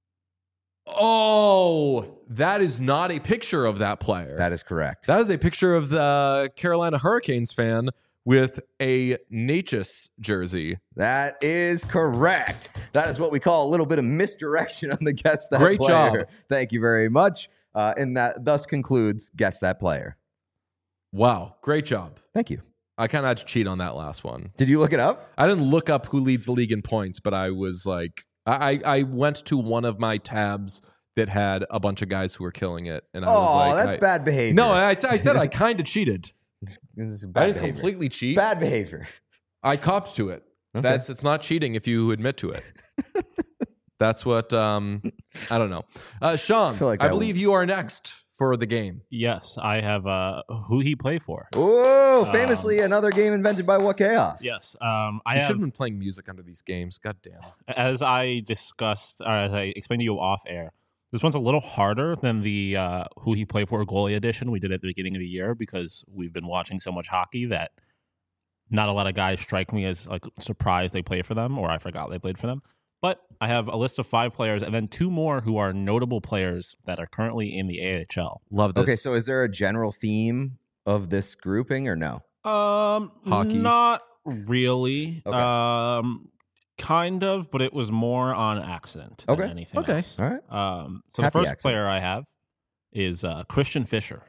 oh, that is not a picture of that player. That is correct. That is a picture of the Carolina Hurricanes fan with a Natchez jersey. That is correct. That is what we call a little bit of misdirection on the Guess That Great Player. job. Thank you very much. Uh, and that thus concludes Guess That Player. Wow, great job. Thank you. I kind of had to cheat on that last one. Did you look it up? I didn't look up who leads the league in points, but I was like, I, I went to one of my tabs that had a bunch of guys who were killing it, and I was Oh, like, that's I- bad behavior. No, I, I said I kind of cheated. This is I bad didn't behavior. completely cheat. Bad behavior. I copped to it. Okay. That's it's not cheating if you admit to it. That's what um I don't know. Uh Sean, I feel like I that believe you are next for the game. Yes, I have. Uh, who he play for? Oh, famously another game invented by What Chaos. Yes, um, I You have. should have been playing music under these games. God damn. As I discussed, or as I explained to you off air, this one's a little harder than the uh, who he played for goalie edition we did at the beginning of the year because we've been watching so much hockey that not a lot of guys strike me as like surprised they play for them, or I forgot they played for them. But I have a list of five players and then two more who are notable players that are currently in the A H L. Love this. Okay, so is there a general theme of this grouping or no? Um, Hockey. not really. Okay. Um, kind of, but it was more on accident than Okay. anything Okay. else. All right. Um, so Happy the first accident. player I have is uh, Christian Fisher.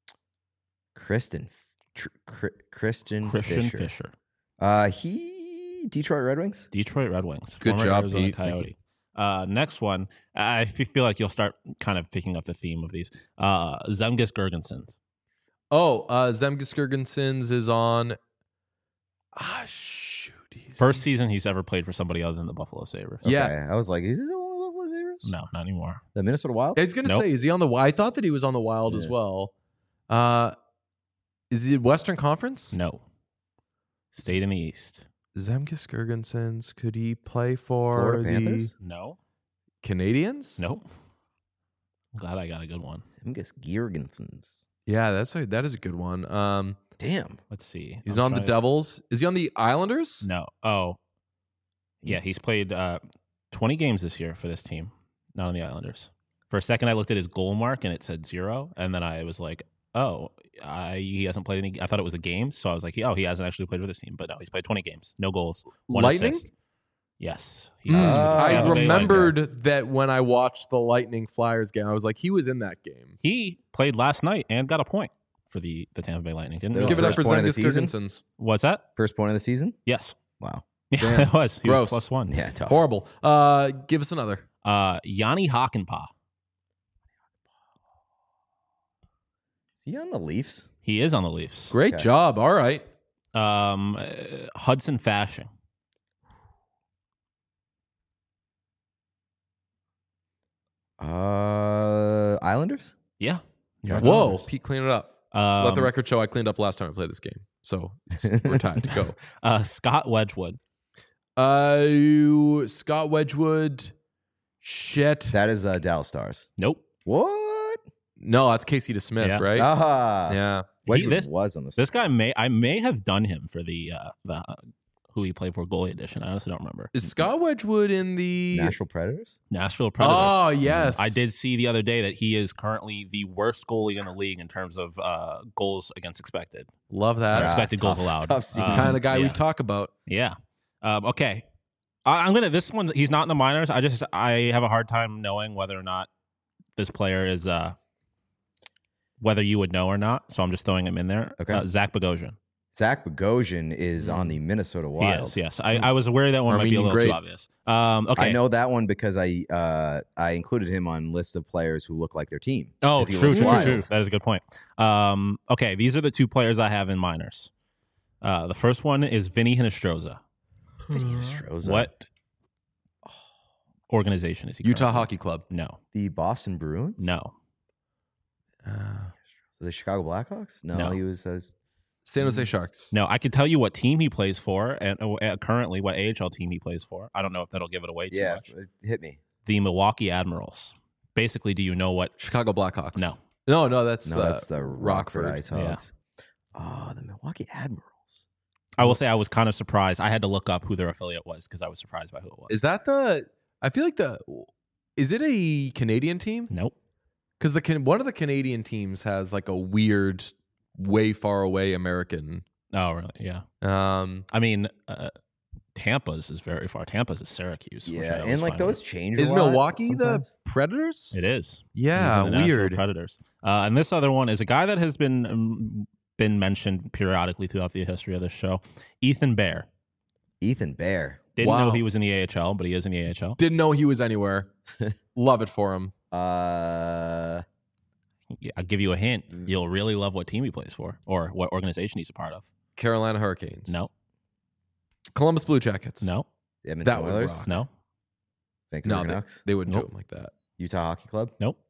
Kristen. Tr- Cr- Christian, Christian Fisher. Fisher. Uh, he Detroit Red Wings. Detroit Red Wings. Good former job, Arizona Pete. Thank Coyote. Uh, next one, I f- feel like you'll start kind of picking up the theme of these. Uh, Zemgus Girgensons. Oh, uh Zemgus Girgensons is on Ah shoot. he's- First season he's ever played for somebody other than the Buffalo Sabres. Yeah. Okay, I was like, is this the only Buffalo Sabres? No, not anymore. The Minnesota Wild? I was gonna Nope. say, is he on the Wild? I thought that he was on the Wild as Yeah. well. Uh is he Western Conference? No. Stayed in the East. Zemgus Girgensons, could he play for Florida the Panthers? No. Canadians? Nope. Glad I got a good one. Zemgus Girgensons. Yeah, that's a that is a good one. Um Damn. Let's see. he's I'm on the trying to- Devils. Is he on the Islanders? No. Oh. Yeah, he's played uh, twenty games this year for this team, not on the Islanders. For a second, I looked at his goal mark and it said zero, and then I was like, "Oh, I, he hasn't played any." I thought it was a game, so I was like, "Oh, he hasn't actually played for this team." But no, he's played twenty games, no goals, one Lightning? assist. Yes, he Mm, has for the Oh. I Tampa Bay Lightning. remembered that when I watched the Lightning Flyers game, I was like, he was in that game. He played last night and got a point for the, the Tampa Bay Lightning. Didn't Let's Let's know give it up that. for First point of the Zemgus season? Girgensons. What's that? First point of the season? Yes. Wow. Yeah, Damn. it was. He Gross. was plus one. Yeah, tough. Horrible. Uh, give us another. Uh, Yanni Hakanpää. Is he on the Leafs? He is on the Leafs. Great Okay. job. All right. Um, uh, Hudson Fashing. Uh, Islanders? Yeah. New York Whoa, Islanders. Pete, clean it up. Um, Let the record show I cleaned up last time I played this game. So it's- we're tied to go. Uh, Scott Wedgwood. Uh, Scott Wedgwood. Shit. That is uh, Dallas Stars. Nope. What? No, that's Casey DeSmith, Yeah. right? Ah, yeah. Wedgwood this- was on the This guy may I may have done him for the uh, the uh, who he played for goalie edition. I honestly don't remember. Is Scott Wedgwood in the Nashville Predators. Nashville Predators. Oh, yes. I did see the other day that he is currently the worst goalie in the league in terms of uh, goals against expected. Love that. Yeah. expected goals tough- allowed. tough scene. Um, kind of guy we yeah. talk about. Yeah. Um, okay. I, I'm gonna. This one, he's not in the minors. I just I have a hard time knowing whether or not this player is uh, whether you would know or not. So I'm just throwing him in there. Okay. Uh, Zach Bogosian. Zach Bogosian is on the Minnesota Wild. Yes. Yes. I, I was worried that one might be a Armenian little great. too obvious. Um, okay. I know that one because I uh, I included him on lists of players who look like their team. Oh, 'Cause he true, looks true, true, wild. true. That is a good point. Um, okay, these are the two players I have in minors. Uh, the first one is Vinny Hinostroza. Vinny Hinostroza. What organization is he? Utah currently? Hockey Club. No, The Boston Bruins? no, Uh, So the Chicago Blackhawks? No, No. he was. Uh, San Jose Sharks. no. I could tell you what team he plays for, and uh, currently what A H L team he plays for. I don't know if that'll give it away too yeah, much. it hit me. The Milwaukee Admirals. Basically, do you know what? Chicago Blackhawks. No. No, no, that's, No, uh, that's the Rockford, Rockford. Ice Yeah. Hogs. Oh, the Milwaukee Admirals. I will say I was kind of surprised. I had to look up who their affiliate was because I was surprised by who it was. Is that the? I feel like the. Is it a Canadian team? nope. Because the Can- one of the Canadian teams has like a weird, way far away American. Oh, really? Yeah. Um, I mean, uh, Tampa's is very far. Tampa's is Syracuse. which I Yeah, always and like find those change. a is lot Milwaukee sometimes. the Predators? weird. It is. Yeah, He's in the Nashville weird. Predators. Uh, and this other one is a guy that has been um, been mentioned periodically throughout the history of this show. Ethan Bear. Ethan Bear. Didn't Wow. know he was in the A H L, but he is in the A H L. Didn't know he was anywhere. Love it for him. Uh, Yeah, I'll give you a hint. Mm. You'll really love what team he plays for or what organization he's a part of. Carolina Hurricanes. No, Columbus Blue Jackets. no, Edmonton That would Oilers. rock. no, Vancouver No, they, Canucks. they wouldn't Nope. do him like that. Utah Hockey Club. nope.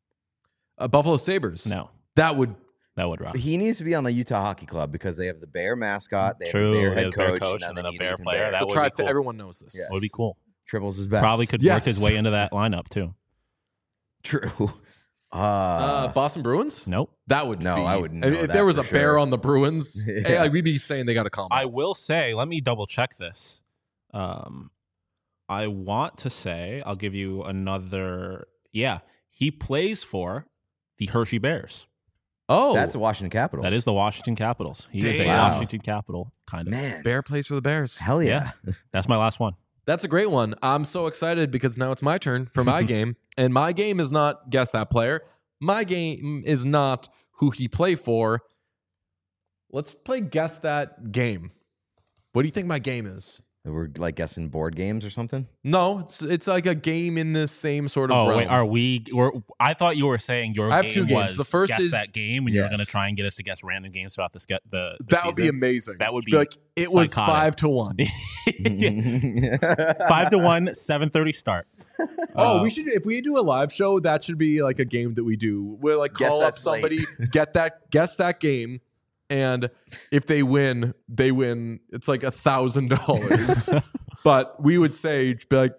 Uh, Buffalo Sabres. No, That would. that would rock. He needs to be on the Utah Hockey Club because they have the Bear mascot. They True, have the Bear they head have the Bear coach, coach, now and they then a need Bear Ethan player. Bear. That The would be trifecta. cool. Everyone knows this. Yeah. Would be cool. Triples his best. Probably could Yes. work his way into that lineup too. True. Uh, Uh, Boston Bruins. Nope. That would. No, be, I wouldn't If, know if that there was for a bear sure. on the Bruins, Yeah. hey, like, we'd be saying they got to come. I will say, let me double check this. Um, I want to say, I'll give you another. Yeah, he plays for the Hershey Bears. Oh, that's the Washington Capitals. That is the Washington Capitals. He is a Damn. Wow. Washington Capital, kind of. man. Bear plays for the Bears. Hell yeah. That's my last one. That's a great one. I'm so excited because now it's my turn for my game, and my game is not guess that player. My game is not who he play for. Let's play guess that game. What do you think my game is? We're like guessing board games or something. No, it's it's like a game in the same sort of Oh realm. wait, are we? We're, I thought you were saying your I have game two games. was The first guess is- that game, and you were Yes. going to try and get us to guess random games throughout the ske- the, the that would be season. amazing. That would Be be like it was psychotic. five to one. Five to one, seven thirty start. Oh, Uh, we should if we do a live show, that should be like a game that we do. We'll like Guess call that up slate. somebody, get that guess that game, and if they win, they win. It's like a thousand dollars. But we would say be like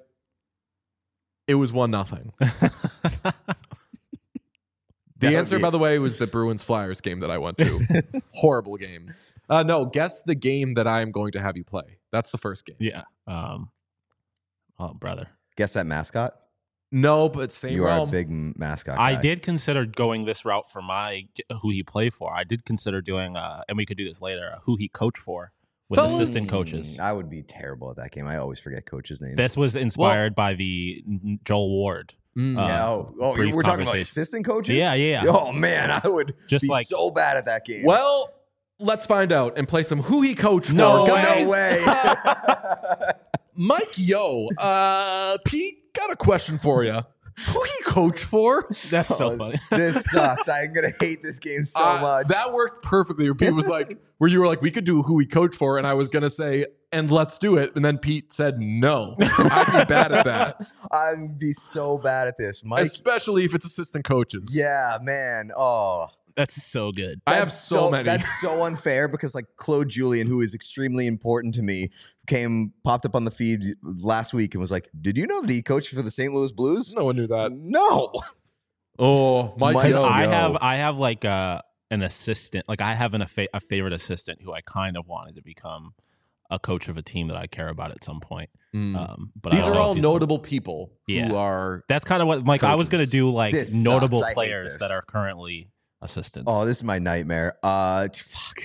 it was one nothing. The That would answer, be- by the way, was the Bruins Flyers game that I went to. Horrible game. Uh, no, guess the game that I am going to have you play. That's the first game. Yeah. Um. Oh, brother. Guess that mascot. No, but same You are a realm. big m- mascot. I guy. did consider going this route for my who he play for. I did consider doing, uh, and we could do this later. Uh, who he coach for with Fellas. assistant coaches. Mm, I would be terrible at that game. I always forget coaches' names. This was inspired by the Joel Ward. Mm. uh, yeah, oh, oh brief we're talking about conversation. assistant coaches. Yeah, yeah, yeah. Oh man, I would Just be like- so bad at that game. Well, let's find out and play some who he coached for. No guys. no way. Mike Yo, uh, Pete, got a question for you. Who he coach for? That's so Oh, funny. This sucks. I'm gonna hate this game so Uh, much. That worked perfectly. Where Pete was like, where you were like, we could do who we coach for, and I was gonna say, and let's do it, and then Pete said no. I'd be bad at that, I'd be so bad at this, Mike. especially if it's assistant coaches. Yeah, man. Oh, That's so good. I have That's so, many. That's so unfair because like Claude Julien, who is extremely important to me, came popped up on the feed last week and was like, "Did you know that he coached for the Saint Louis Blues?" No one knew that. No. Oh, Mike. Mike- Yo. I yo. have I have like a an assistant. Like I have an, a, fa- a favorite assistant who I kind of wanted to become a coach of a team that I care about at some point. Mm. Um, but I These don't are know all if he's- notable people Yeah. who are. That's kind of what like I was gonna Coaches. do like This notable sucks. I hate players this. that are currently assistants. Oh, this is my nightmare. Uh, t- fuck.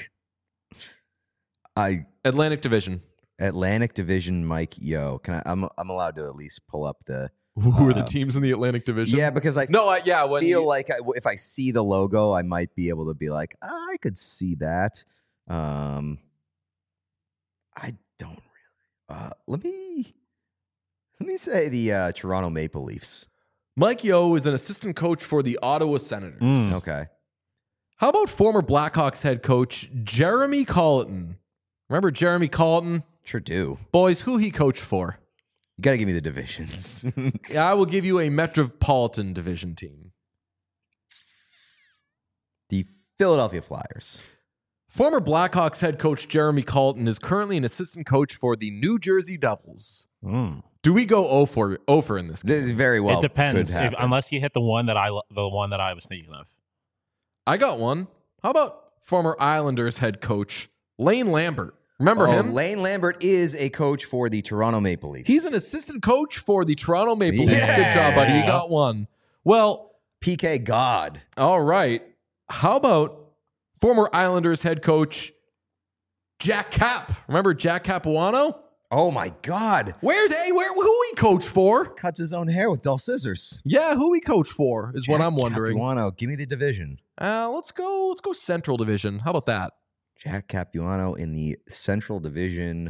I Atlantic Division. Atlantic Division, Mike. Yo, can I? I'm I'm allowed to at least pull up the. Who are the Uh, teams in the Atlantic Division? Yeah, because I No, I, yeah. When feel you- like I, if I see the logo, I might be able to be like, "Ah, I could see that. Um, I don't really. Uh, let me let me say the uh, Toronto Maple Leafs. Mike Yo is an assistant coach for the Ottawa Senators. Mm. Okay, How about former Blackhawks head coach Jeremy Colleton? Remember Jeremy Colleton? sure do. Boys, who he coached for? You got to give me the divisions. Yeah, I will give you a Metropolitan Division team. The Philadelphia Flyers. Former Blackhawks head coach Jeremy Colleton is currently an assistant coach for the New Jersey Devils. Mm. Do we go oh for oh for in this game? This is very well. it depends. Could If, happen. unless you hit the one that I lo- the one that I was thinking of. I got one. How about former Islanders head coach Lane Lambert? Remember Oh, him? Lane Lambert is a coach for the Toronto Maple Leafs. He's an assistant coach for the Toronto Maple Leafs. Yeah. Good job, buddy. You got one. Well, P K God. all right. How about former Islanders head coach Jack Cap? Remember Jack Capuano? Oh my God. Where's hey, where who he coached for? Cuts his own hair with dull scissors. Yeah, who he coached for is what Jack I'm wondering. Capuano. Give me the division. Uh, let's go. Let's go Central Division. How about that? Jack Capuano in the Central Division.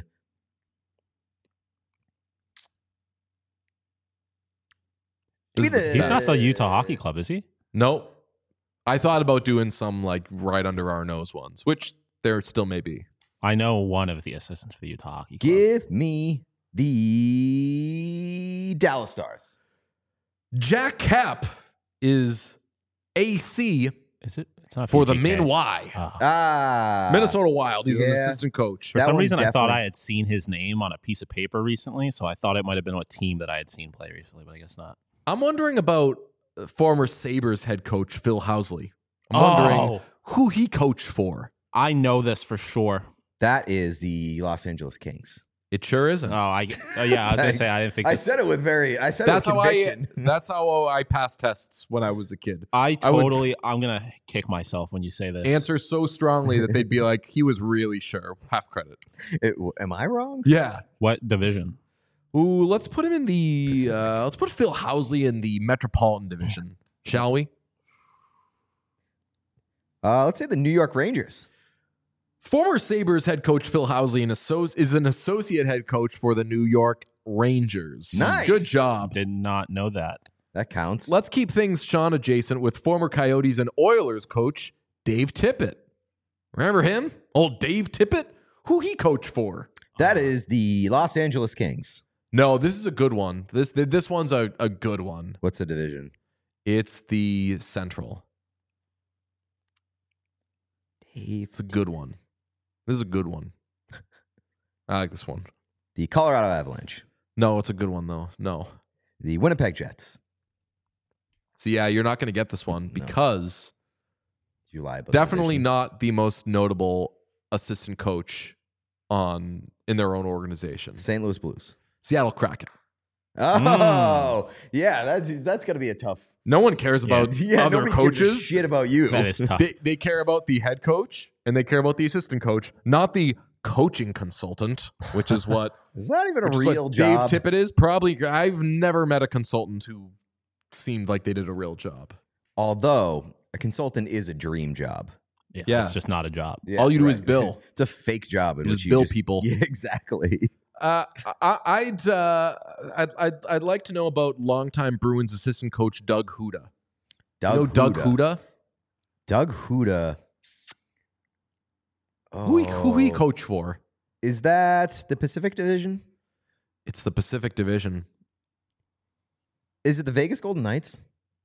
Give me This is the- the He's not best. the Utah Hockey Club, is he? Nope. I thought about doing some like right under our nose ones, which there still may be. I know one of the assistants for the Utah Hockey Club. Give me the Dallas Stars. Jack Cap is A C Is it? It's not for the P G K. Min Y. Ah. Ah. Minnesota Wild. He's an yeah. assistant coach. For That some one reason, I thought definitely- I had seen his name on a piece of paper recently, so I thought it might have been a team that I had seen play recently, but I guess not. I'm wondering about uh, former Sabres head coach Phil Housley. I'm wondering Oh. who he coached for. I know this for sure. That is the Los Angeles Kings. It sure isn't. Oh, I. Oh, yeah, I was gonna say Thanks. I didn't think. I this- said it with very, I said that's it how with I. conviction. That's how I passed tests when I was a kid. I I would- totally. I'm gonna kick myself when you say this. Answer so strongly that they'd be like, he was really sure. Half credit. It- am I wrong? Yeah. What division? Ooh, let's put him in the. Uh, let's put Phil Housley in the Metropolitan Division, shall we? Uh, let's say the New York Rangers. Former Sabres head coach Phil Housley an associ- is an associate head coach for the New York Rangers. Nice. Good job. Did not know that. That counts. Let's keep things Sean adjacent with former Coyotes and Oilers coach Dave Tippett. Remember him? Old Dave Tippett? Who he coached for? that is the Los Angeles Kings. No, this is a good one. This this one's a, a good one. What's the division? It's the Central. Dave. It's a good one. This is a good one. I like this one. The Colorado Avalanche. No, it's a good one though. No. The Winnipeg Jets. So yeah, you're not going to get this one because You lie about the definitely division. not the most notable assistant coach on in their own organization. Saint Louis Blues. Seattle Kraken. Oh, yeah. That's that's gonna be a tough. No one cares about Yeah, other nobody gives a coaches. shit about you. That is tough. They, they care about the head coach and they care about the assistant coach, not the coaching consultant, which is what, It's not even a which is real what job. Dave Tippett is. Probably, I've never met a consultant who seemed like they did a real job. Although a consultant is a dream job. Yeah, Yeah. it's just not a job. Yeah, All you do right. is bill. It's a fake job. In You which just you bill just, people. Yeah, exactly. Uh, I, I'd, uh, I'd I'd I'd like to know about longtime Bruins assistant coach Doug Huda. Doug you know Huda. Doug Huda? Doug Huda. Oh. Who he who he coach for? Is that the Pacific Division? It's the Pacific Division. Is it the Vegas Golden Knights?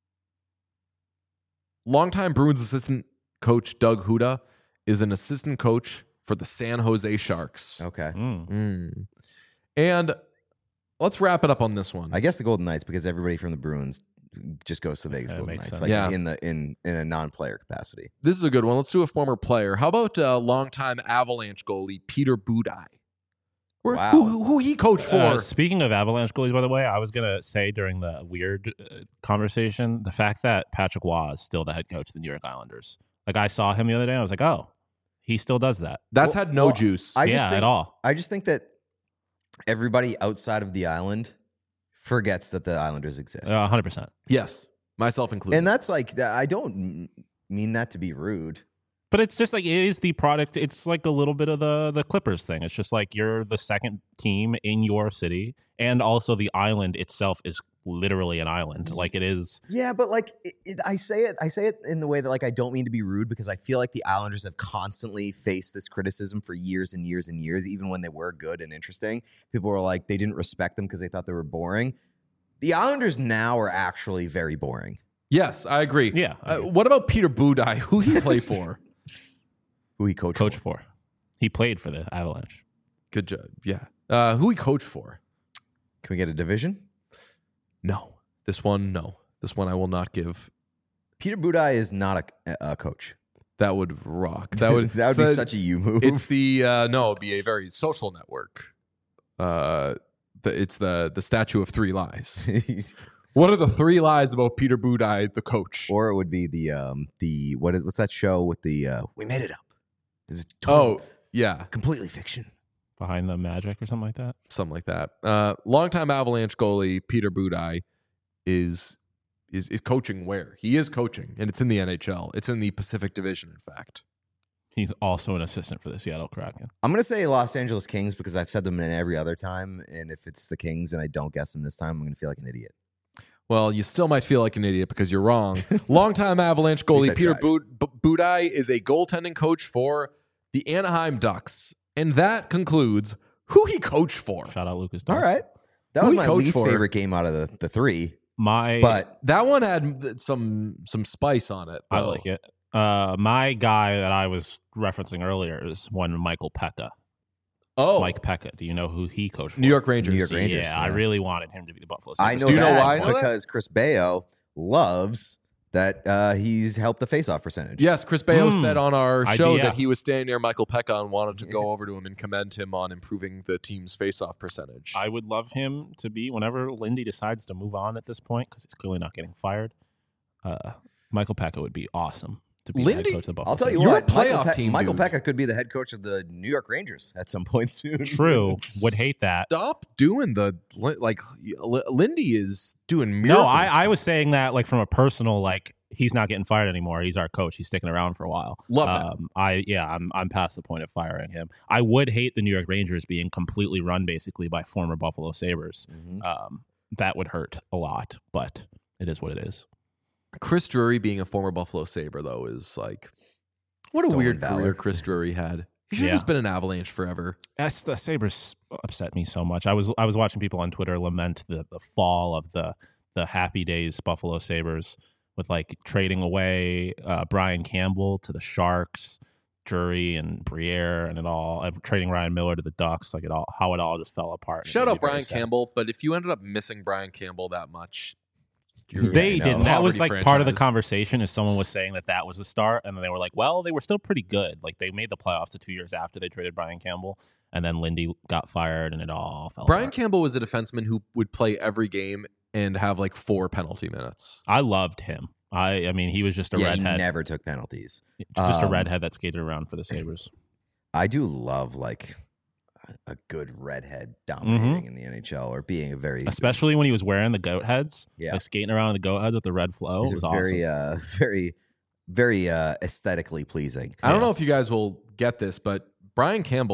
Longtime Bruins assistant coach Doug Huda is an assistant coach for the San Jose Sharks. Okay. Mm. Mm. And let's wrap it up on this one. I guess the Golden Knights, because everybody from the Bruins just goes to the Vegas Okay, Golden makes Knights, sense. like Yeah. in the in in a non-player capacity. This is a good one. Let's do a former player. How about uh, longtime Avalanche goalie Peter Budaj? Where, Wow. who, who, who he coached for? Uh, speaking of Avalanche goalies, by the way, I was going to say during the weird uh, conversation, the fact that Patrick Waugh is still the head coach of the New York Islanders. Like, I saw him the other day, and I was like, oh, he still does that. That's Well- had no well, juice. I just yeah, think, at all. I just think that everybody outside of the island forgets that the Islanders exist. Uh, one hundred percent. yes, myself included. And that's like, I don't m- mean that to be rude. But it's just like, it is the product. It's like a little bit of the, the Clippers thing. It's just like you're the second team in your city. And also the island itself is literally an island. Like it is. Yeah, but like it, it, I say it, I say it in the way that like I don't mean to be rude, because I feel like the Islanders have constantly faced this criticism for years and years and years, even when they were good and interesting. People were like they didn't respect them because they thought they were boring. The Islanders now are actually very boring. yes, I agree. Yeah. I Uh, agree. what about Peter Budaj? Who he play for? Who he coached? Coach for. for. He played for the Avalanche. Good job. Yeah. Uh, who he coached for? Can we get a division? No. This one, no. This one I will not give. Peter Budaj is not a, a coach. That would rock. That would that would be so such a you move. It's the uh, no, it'd be a very social network. Uh, the, it's the the statue of three lies. What are the three lies about Peter Budaj, the coach? Or it would be the um the what is what's that show with the uh, we made it up. It's oh, total, yeah, completely fiction. Behind the Magic or something like that. something like that. Uh, longtime Avalanche goalie Peter Budaj is is is coaching where he is coaching, and it's in the N H L. It's in the Pacific Division, in fact. He's also an assistant for the Seattle Kraken. I'm gonna say Los Angeles Kings because I've said them in every other time, and if it's the Kings and I don't guess them this time, I'm gonna feel like an idiot. Well, you still might feel like an idiot because you're wrong. Longtime Avalanche goalie I Peter tried. Bud- B- Budaj is a goaltending coach for the Anaheim Ducks, and that concludes who he coached for. Shout out Lucas. All Dawson. right, that Who was he my coached least for? favorite game out of the, the three, My but That one had some some spice on it. I though. like it. Uh, my guy that I was referencing earlier is one Michael Pekka. Oh, Mike Pekka. Do you know who he coached for? New York Rangers. New York Rangers. Yeah, I yeah. really wanted him to be the Buffalo I Sabres. know Do you know that why I know that? because Chris Baio loves that uh, he's helped the faceoff percentage. Yes, Chris Baio Hmm. said on our I- show yeah. that he was standing near Michael Pekka and wanted to go over to him and commend him on improving the team's faceoff percentage. I would love him to be whenever Lindy decides to move on at this point because he's clearly not getting fired. Uh, Michael Pekka would be awesome to be the Lindy? head coach of the Buffalo I'll tell you Sabres. You're what, a Michael, playoff Pe- team, Michael dude. Pekka could be the head coach of the New York Rangers at some point soon. True. Would hate that. Stop doing the like. L- Lindy is doing miracles. No, I, I was saying that like from a personal like he's not getting fired anymore. He's our coach. He's sticking around for a while. Love that. Um, I yeah, I'm I'm past the point of firing him. I would hate the New York Rangers being completely run basically by former Buffalo Sabres. Mhm. Um, that would hurt a lot, but it is what it is. Chris Drury being a former Buffalo Sabre though is like what a Stolen weird valor. career Chris Drury had. He should have Yeah. just been an Avalanche forever. That's, the Sabres upset me so much. I was I was watching people on Twitter lament the the fall of the the happy days Buffalo Sabres with like trading away uh, Brian Campbell to the Sharks, Drury and Briere, and it all uh, trading Ryan Miller to the Ducks. Like it all how it all just fell apart. Shout It made out me very Brian sad. Campbell, but if you ended up missing Brian Campbell that much, you're- They I know. didn't. That was Poverty like part of the franchise. conversation. Is someone was saying that that was the start, and then they were like, "Well, they were still pretty good. Like they made the playoffs the two years after they traded Brian Campbell, and then Lindy got fired, and it all fell." Brian apart. Campbell was a defenseman who would play every game and have like four penalty minutes. I loved him. I, I mean, he was just a yeah, he redhead, never took penalties. just a Um, redhead that skated around for the Sabres. I do love like a- a good redhead dominating Mm-hmm. in the N H L or being a very Especially when he was wearing the goat heads, Yeah. like skating around in the goat heads with the red flow. he's It was a awesome. very uh very very uh aesthetically pleasing. I don't Yeah. know if you guys will get this, but Brian Campbell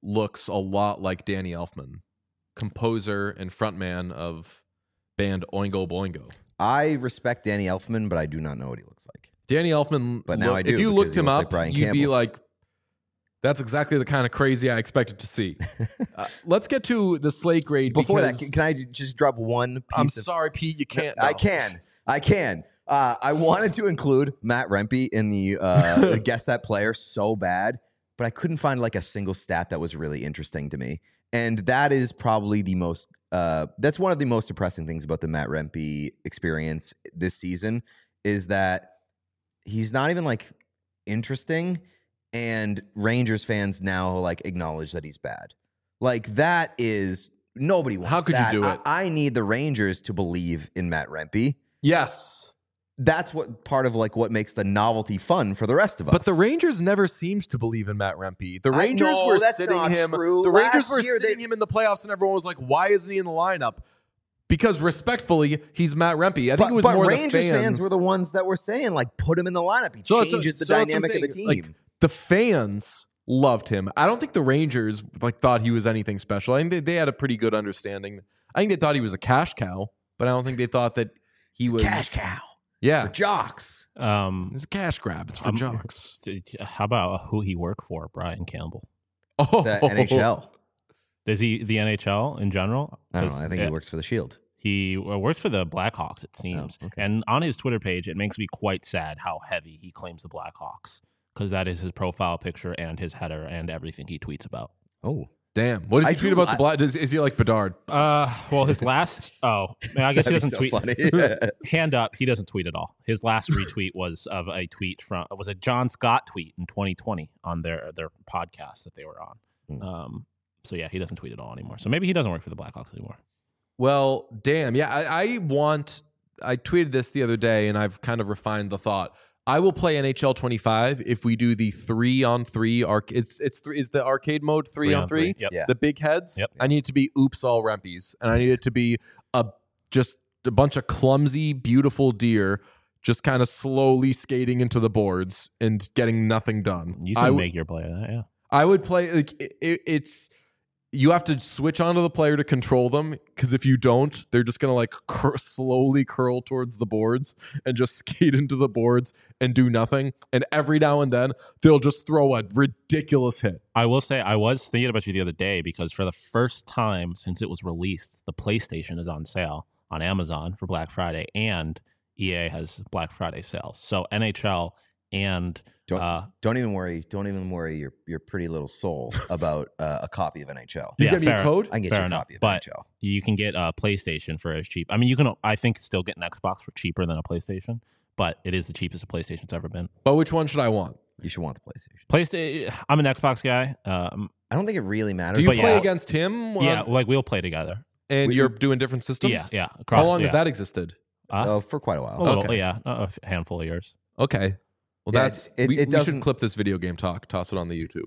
looks a lot like Danny Elfman, composer and frontman of band Oingo Boingo. I respect Danny Elfman, but I do not know what he looks like. Danny Elfman, But now look, I do, if you because looked he him looks up, like Brian you'd be Campbell. like, that's exactly the kind of crazy I expected to see. uh, let's get to the slate grade. Before that, because- can, can I just drop one piece I'm of... sorry, Pete, you can't. I no. can. I can. Uh, I wanted to include Matt Rempe in the uh, Guess That Player so bad, but I couldn't find like a single stat that was really interesting to me. And that is probably the most... Uh, that's one of the most depressing things about the Matt Rempe experience this season is that he's not even like interesting, and Rangers fans now like acknowledge that he's bad. Like that is nobody wants How could you that. do it? I, I need the Rangers to believe in Matt Rempe. Yes. That's what part of like what makes the novelty fun for the rest of us. But the Rangers never seemed to believe in Matt Rempe. The I Rangers know, were that's sitting not him. true. The Last Rangers were year sitting they- him in the playoffs, and everyone was like, "Why isn't he in the lineup?" Because respectfully, he's Matt Rempe. I think but, it was but more Rangers the fans. fans were the ones that were saying like put him in the lineup. He So- so- changes the so that's what I'm dynamic of the saying. team. Like, the fans loved him. I don't think the Rangers like thought he was anything special. I think they, they had a pretty good understanding. I think they thought he was a cash cow, but I don't think they thought that he was Cash cow Yeah, for jocks. Um, it's a cash grab. It's for Um, jocks. how about who he worked for, Brian Campbell? Oh, The N H L. Is he the N H L in general? I don't know. I 'Cause, think uh, he works for the Shield. He uh, works for the Blackhawks, it seems. Oh, okay. And on his Twitter page, it makes me quite sad how heavy he claims the Blackhawks, because that is his profile picture and his header and everything he tweets about. Oh, Damn. What does he I tweet do- about the I- Black? Does, is he like Bedard? Uh, well, his last oh, I guess he that'd be doesn't so tweet. funny. Hand up, he doesn't tweet at all. His last retweet was of a tweet from was a John Scott tweet in twenty twenty on their their podcast that they were on. Hmm. Um, so yeah, he doesn't tweet at all anymore. So maybe he doesn't work for the Blackhawks anymore. Well, damn. Yeah, I, I want. I tweeted this the other day, and I've kind of refined the thought. I will play N H L twenty-five if we do the three on three arc. It's it's three. Is the arcade mode three, Three on on three? three, yep. Yeah. The big heads. Yep. I need it to be oops all Rempies, and I need it to be a just a bunch of clumsy, beautiful deer just kind of slowly skating into the boards and getting nothing done. You I can w- make your play of that, yeah. I would play like it, it, it's you have to switch onto the player to control them, because if you don't, they're just gonna like cur- slowly curl towards the boards and just skate into the boards and do nothing. And every now and then they'll just throw a ridiculous hit. I will say I was thinking about you the other day because for the first time since it was released, the PlayStation is on sale on Amazon for Black Friday, and E A has Black Friday sales. So N H L and Don't, uh, don't even worry. Don't even worry your your pretty little soul about uh, a copy of N H L. You Yeah, get me a fair. code? I can get Fair you a enough, copy of but- N H L. you can get a PlayStation for as cheap. I mean, you can I think still get an Xbox for cheaper than a PlayStation, but it is the cheapest a PlayStation's ever been. But which one should I want? You should want the PlayStation. PlayStation. I'm an Xbox guy. Um, I don't think it really matters. Do you But play yeah. against him? yeah, Um, like we'll play together. and we- you're doing different systems? Yeah, yeah. How Across, long yeah. has that existed? Uh, Oh, for quite a while. a little, Okay. yeah, a handful of years. Okay. Well, Yeah, that's it's- it- we, it we should doesn't- clip this video game talk, toss it on the YouTube.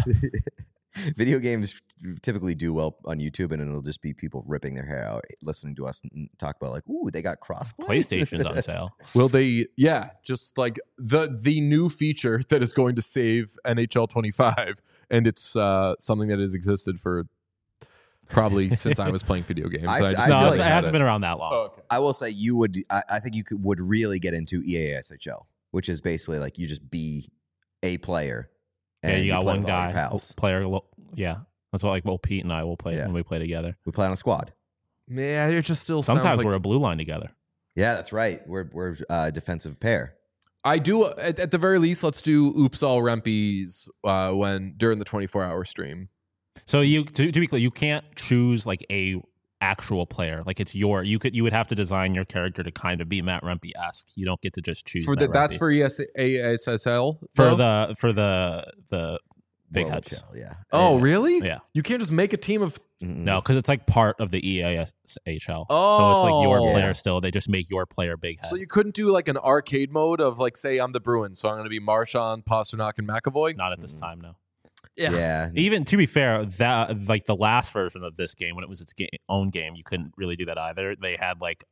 Video games typically do well on YouTube, and it'll just be people ripping their hair out, listening to us and talk about like, "Ooh, they got crossplay." PlayStation's on sale. Will they? Yeah, just like the the new feature that is going to save N H L twenty-five, and it's uh, something that has existed for probably since I was playing video games. I- and I just I no, feel it's- like it had hasn't been around that long. Oh, okay. I will say you would. I, I think you could would really get into E A S H L, which is basically like you just be a player. Yeah, and you got play one with all your guy, pals. player. lo- Yeah, that's what like well, Pete and I will play Yeah. when we play together. We play on a squad. Yeah, it just still Sometimes sounds like we're a blue line together. Yeah, that's right. We're we're uh, defensive pair. I do at, at the very least. Let's do oops all Rempies uh, when during the twenty-four hour stream. So you to, to be clear, you can't choose like a actual player. Like it's your you could you would have to design your character to kind of be Matt Rempe esque. You don't get to just choose For Matt the, that's Rempe. for E S A S S L for though? the for the the big World heads. Shell, yeah. Oh, Yeah. really? Yeah. You can't just make a team of. Mm-mm. No, because it's like part of the E A S H L. so it's like your Oh. player Yeah. still. They just make your player big head. So you couldn't do like an arcade mode of like, say, I'm the Bruins, so I'm going to be Marchand, Pasternak, and McAvoy. Not at this time, no. Yeah. Yeah. Even to be fair, that like the last version of this game when it was its ga- own game, you couldn't really do that either. They had like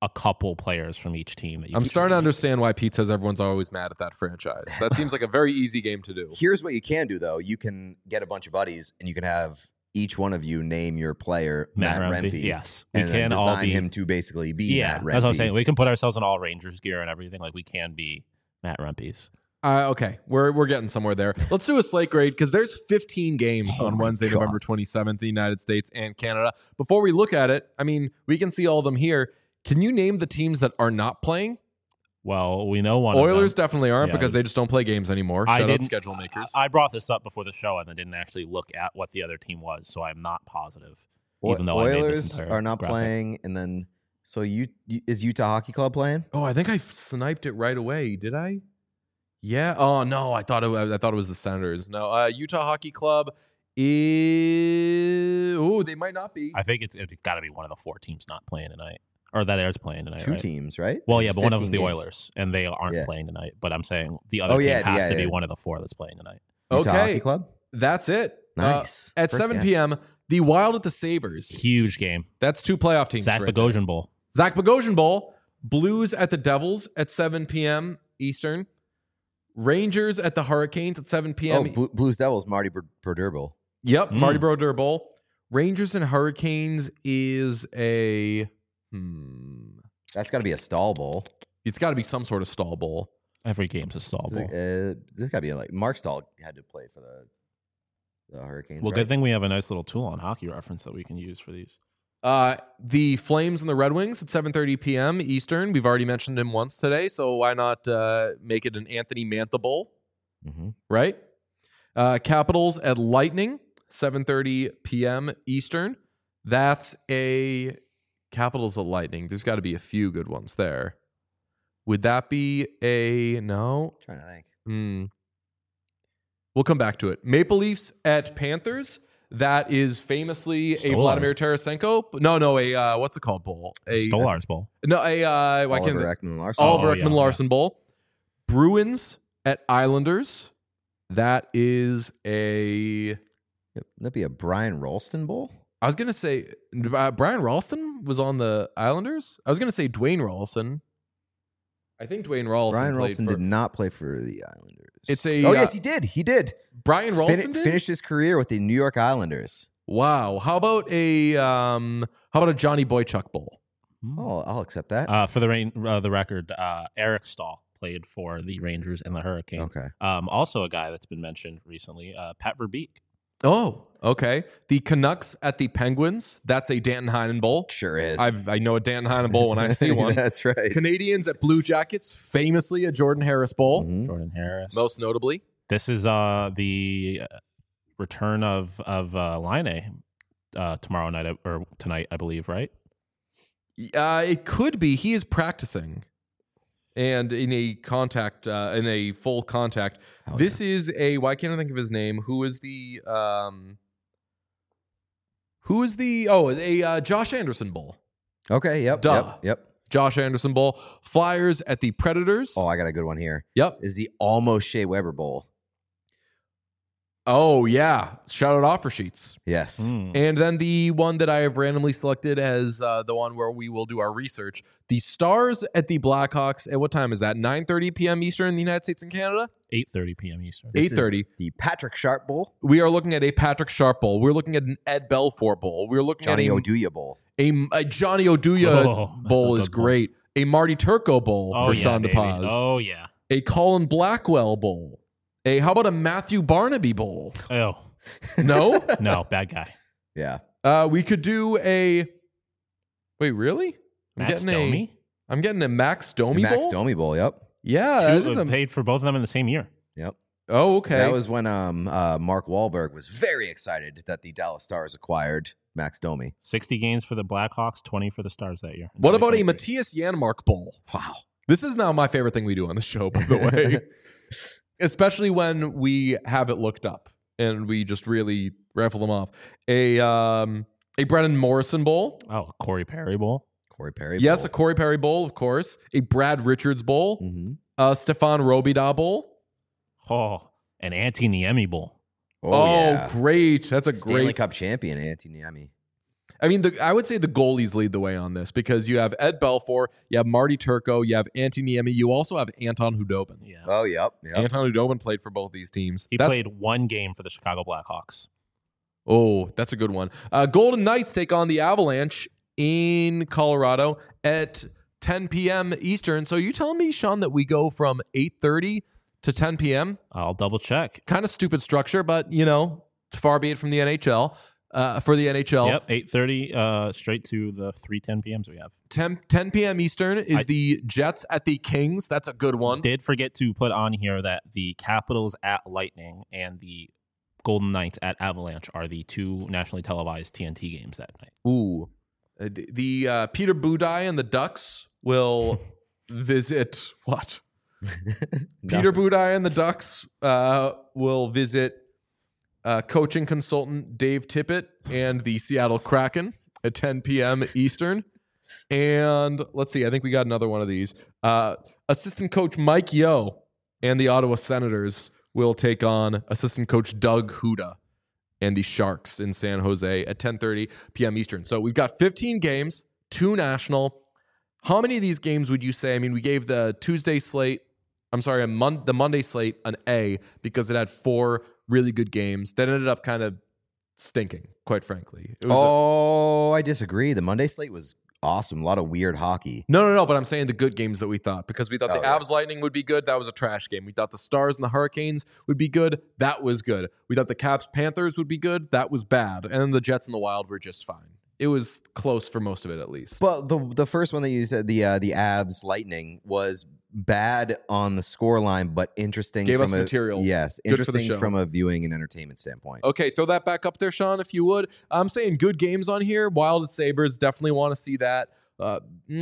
a couple players from each team. That you I'm can starting to choose. understand why Pete says everyone's always mad at that franchise. That seems like a very easy game to do. Here's what you can do, though. You can get a bunch of buddies, and you can have each one of you name your player Matt, Matt, Rempe. Rempe. Yes, we and then can design all be him to basically be Yeah, Matt Rempe. that's what I'm saying. We can put ourselves in all Rangers gear and everything. Like we can be Matt Rempe's. Uh, okay, we're we're getting somewhere there. Let's do a slate grade because there's fifteen games Oh on my Wednesday, God. November twenty-seventh, in the United States and Canada. Before we look at it, I mean, we can see all of them here. Can you name the teams that are not playing? Well, we know one. Oilers of them. definitely aren't Yeah, because they just don't play games anymore. I Shut out didn't- schedule makers. I brought this up before the show and then didn't actually look at what the other team was, so I'm not positive. O- Even though I made this Oilers entire are not graphic. playing, and then so you, you is Utah Hockey Club playing? oh, I think I sniped it right away. Did I? Yeah. Oh no, I thought it. Was, I thought it was the Senators. No, uh, Utah Hockey Club is. Oh, they might not be. I think it's it's got to be one of the four teams not playing tonight, or that is playing tonight. Two right? teams, right? Well, This yeah, is but one of them is the fifteen games. Oilers, and they aren't Yeah. playing tonight. But I'm saying the other Oh, team yeah, has yeah, to be yeah. one of the four that's playing tonight. Utah Okay, Hockey Club. that's it. Uh, Nice. at First seven guess. p.m., the Wild at the Sabres. Huge game. That's two playoff teams. Zach right there. Bogosian Bowl. Zach Bogosian Bowl. Blues at the Devils at seven p.m. Eastern. Rangers at the Hurricanes at seven p.m. Oh, Blue, Blues Devils, Marty Ber- Brodeur Bowl. Yep, Mm. Marty Brodeur Bowl. Rangers and Hurricanes is a hmm. That's got to be a stall bowl. It's got to be some sort of stall bowl. Every game's a stall This, bowl. uh, this got to be like Mark Stahl had to play for the the Hurricanes. Well, right? good thing we have a nice little tool on Hockey Reference that we can use for these. Uh, the Flames and the Red Wings at seven thirty p.m. Eastern. We've already mentioned him once today, so why not uh, make it an Anthony Mantha Bowl, Mhm. right? Uh, Capitals at Lightning, seven thirty p.m. Eastern. That's a Capitals at Lightning. There's got to be a few good ones there. Would that be a no? Trying to think. Hmm. We'll come back to it. Maple Leafs at Panthers. That is famously a Stolarz. Vladimir Tarasenko. No, no, a uh, what's it called bowl? A Stolarz Bowl. No, a uh, why can't Oliver Ekman Larson. Oliver Oh, yeah, Ekman yeah. Larson Bowl. Bruins at Islanders. That is a. Would that be a Brian Rolston Bowl? I was gonna say uh, Brian Ralston was on the Islanders. I was gonna say Dwayne Ralston. I think Dwayne Ralston. Brian played Rolston for- did not play for the Islanders. It's a, Oh uh, yes, he did. He did. Brian Ralston Fin- did? finished his career with the New York Islanders. Wow. How about a um? How about a Johnny Boychuk Bowl? Oh, I'll accept that. Uh, for the rain, uh, the record, uh, Eric Stahl played for the Rangers and the Hurricanes. Okay. Um, also a guy that's been mentioned recently, uh, Pat Verbeek. Oh, okay. The Canucks at the Penguins. That's a Danton Heinen Bowl. Sure is. I've I know a Danton Heinen Bowl when I see one. That's right. Canadians at Blue Jackets, famously a Jordan Harris Bowl, Mhm. Jordan Harris. most notably. This is uh, the uh, return of of uh, Line uh, tomorrow night uh, or tonight, I believe, right? Uh, it could be he is practicing, and in a contact, uh, in a full contact. Hell this is a. Why can't I think of his name? Who is the um? Who is the? Oh, a uh, Josh Anderson Bowl. Okay. Yep. Duh. Yep. Yep. Josh Anderson Bowl. Flyers at the Predators. Oh, I got a good one here. Yep. Is the almost Shea Weber Bowl? Oh yeah. Shout out offer sheets. Yes. Mm. And then the one that I have randomly selected as uh, the one where we will do our research. The Stars at the Blackhawks. At what time is that? nine thirty p.m. Eastern in the United States and Canada? eight thirty p.m. Eastern. This is eight thirty. The Patrick Sharp Bowl. We are looking at a Patrick Sharp Bowl. We're looking at an Ed Belfour Bowl. We're looking Johnny at a, Oduya Bowl. a, a Johnny Oduya Oh, that's Bowl a is good bowl. great. A Marty Turco Bowl Oh, for yeah, Sean baby. DePaz. Oh, yeah. A Colin Blackwell Bowl. A how about a Matthew Barnaby Bowl? Oh, No? no, bad guy. Yeah. uh, we could do a. Wait, really? I'm Max getting Domi? a. I'm getting a Max Domi Max Bowl. Domi Bowl. Yep. Yeah, that Two, is uh, a, paid for both of them in the same year. Yep. oh, okay. That was when um uh Mark Wahlberg was very excited that the Dallas Stars acquired Max Domi. sixty games for the Blackhawks, twenty for the Stars that year. what about a twenty twenty-three. Matthias Janmark Bowl? Wow. This is now my favorite thing we do on the show, by the way. Especially when we have it looked up and we just really raffle them off. A um a Brennan Morrison Bowl. Oh, Corey Perry Bowl. Corey Perry. Yes, Bowl. a Corey Perry Bowl, of course. A Brad Richards Bowl. Mhm. A Stefan Robida Bowl. Oh, an Antti Niemi Bowl. Oh, Oh, yeah. great. That's a Stanley great. Cup champion Antti Niemi. I mean, the, I would say the goalies lead the way on this because you have Ed Belfour, you have Marty Turco, you have Antti Niemi, you also have Anton Hudobin. Yeah. Oh, yep. yep. Anton Hudobin played for both these teams. He That's, played one game for the Chicago Blackhawks. Oh, that's a good one. Uh, Golden Knights take on the Avalanche in Colorado at ten p.m. Eastern. So you telling me, Sean, that we go from eight thirty to ten p.m.? I'll double check. Kind of stupid structure, but, you know, far be it from the N H L. Uh, for the N H L. Yep, eight thirty uh, straight to the three ten p.m.s we have. ten, ten p.m. Eastern is I- the Jets at the Kings. That's a good one. Did forget to put on here that the Capitals at Lightning and the Golden Knights at Avalanche are the two nationally televised T N T games that night. Ooh. Uh, the the uh, Peter Budaj and the Ducks will visit what? Peter Budaj and the Ducks uh, will visit uh, coaching consultant Dave Tippett and the Seattle Kraken at ten p.m. Eastern. And let's see, I think we got another one of these. Uh, assistant coach Mike Yeo and the Ottawa Senators will take on assistant coach Doug Huda and the Sharks in San Jose at ten thirty p.m. Eastern. So we've got fifteen games, two national. How many of these games would you say? I mean, we gave the Tuesday slate, I'm sorry, a mon- the Monday slate an A because it had four really good games that ended up kind of stinking, quite frankly. It was a- Oh, I disagree. The Monday slate was awesome. A lot of weird hockey. No, no, no, but I'm saying the good games that we thought because we thought Oh, the yeah. Avs Lightning would be good. That was a trash game. We thought the Stars and the Hurricanes would be good. That was good. We thought the Caps Panthers would be good. That was bad. And then the Jets and the Wild were just fine. It was close for most of it, at least. But the the first one that you said, the uh, the Avs Lightning, was bad on the score line, but interesting. Gave from us a, material. Yes, Good for the interesting show. from a viewing and entertainment standpoint. Okay, throw that back up there, Sean, if you would. I'm saying good games on here. Wild and Sabres, definitely want to see that. Uh,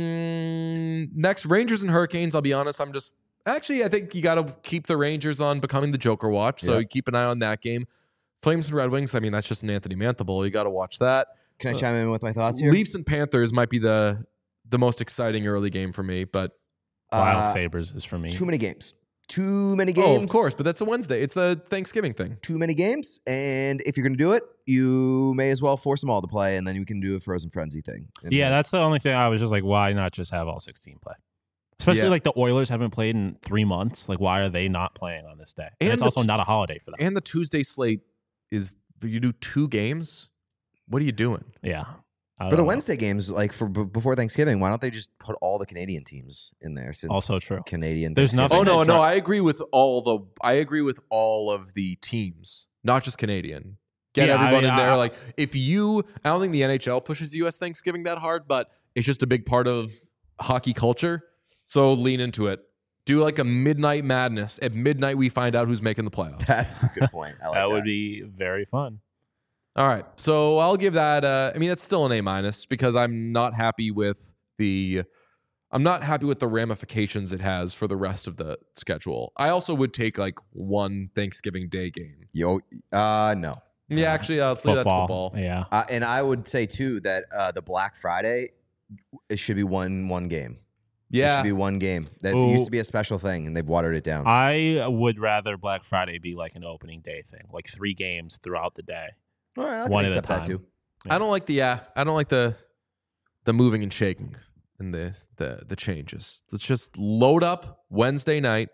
mm, next, Rangers and Hurricanes. I'll be honest, I'm just actually I think you got to keep the Rangers on becoming the Joker watch. So Yeah. you keep an eye on that game. Flames and Red Wings. I mean, that's just an Anthony Mantha Bowl. You got to watch that. Can I chime in with my thoughts here? Leafs and Panthers might be the the most exciting early game for me, but Wild Uh, Sabres is for me. Too many games. Too many games. oh, of course. But that's a Wednesday. It's the Thanksgiving thing. Too many games. And if you're going to do it, you may as well force them all to play, and then you can do a Frozen Frenzy thing. And Yeah, that's the only thing I was just like, why not just have all sixteen play? Especially Yeah. like the Oilers haven't played in three months. Like, why are they not playing on this day? And, And it's the also t- not a holiday for them. And the Tuesday slate is you do two games. What are you doing? yeah. I For the don't know. Wednesday games, like for b- before Thanksgiving, why don't they just put all the Canadian teams in there? Since Also true. Canadian. There's Thanksgiving- nothing Oh no, that no, dri- I agree with all the I agree with all of the teams, not just Canadian. Get Yeah, I everyone mean, in there. I- like if you I don't think the N H L pushes U S Thanksgiving that hard, but it's just a big part of hockey culture. So lean into it. Do like a midnight madness. At midnight we find out who's making the playoffs. That's a good point. I like that that. would be very fun. All right. So I'll give that uh I mean that's still an A minus because I'm not happy with the I'm not happy with the ramifications it has for the rest of the schedule. I also would take like one Thanksgiving Day game. Yo, uh, no. Yeah, actually, uh, let's leave that to Football. football. Yeah. Uh, and I would say too that uh, the Black Friday, it should be one one game. It Yeah. should be one game. That Ooh. used to be a special thing, and they've watered it down. I would rather Black Friday be like an opening day thing, like three games throughout the day. All right, I can one at a accept that time. too. I don't like the yeah. I don't like the the moving and shaking and the the the changes. Let's just load up Wednesday night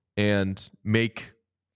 and make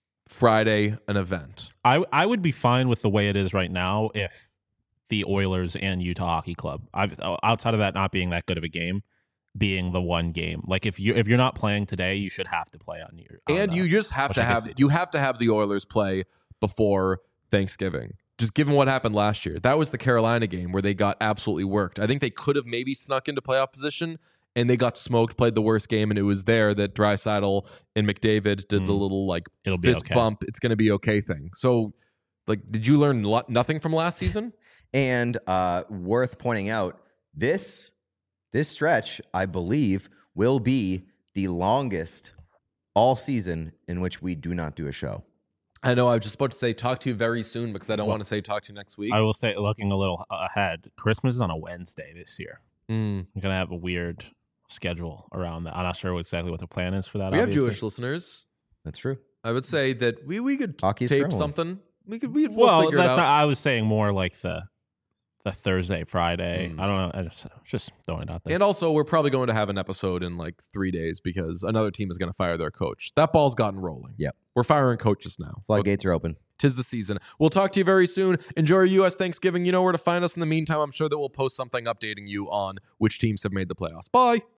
Friday an event. I I would be fine with the way it is right now if the Oilers and Utah Hockey Club, I've, outside of that not being that good of a game, being the one game. Like if you if you're not playing today, you should have to play on your. on, And uh, you just have to Washington have Stadium. you have to have the Oilers play before Thanksgiving. Just given what happened last year. That was the Carolina game where they got absolutely worked. I think they could have maybe snuck into playoff position and they got smoked, played the worst game, and it was there that Draisaitl and McDavid did the Mm. little like It'll be fist okay. bump. It's going to be okay thing. So, like, did you learn lo- nothing from last season? And uh, worth pointing out, this this stretch, I believe, will be the longest all season in which we do not do a show. I know. I was just about to say talk to you very soon because I don't Well, want to say talk to you next week. I will say, looking a little ahead, Christmas is on a Wednesday this year. Mm. We're gonna have a weird schedule around that. I'm not sure exactly what the plan is for that. We have obviously. Jewish listeners. That's true. I would say that we we could Hockey's for tape everyone. something. We could we could we'll Well, figure that's it out. not. I was saying more like the a Thursday, Friday. Mm. I don't know. I just just throwing it out there. And also, we're probably going to have an episode in like three days because another team is going to fire their coach. That ball's gotten rolling. Yep. We're firing coaches now. Floodgates are open. Tis the season. We'll talk to you very soon. Enjoy your U S Thanksgiving. You know where to find us. In the meantime, I'm sure that we'll post something updating you on which teams have made the playoffs. Bye.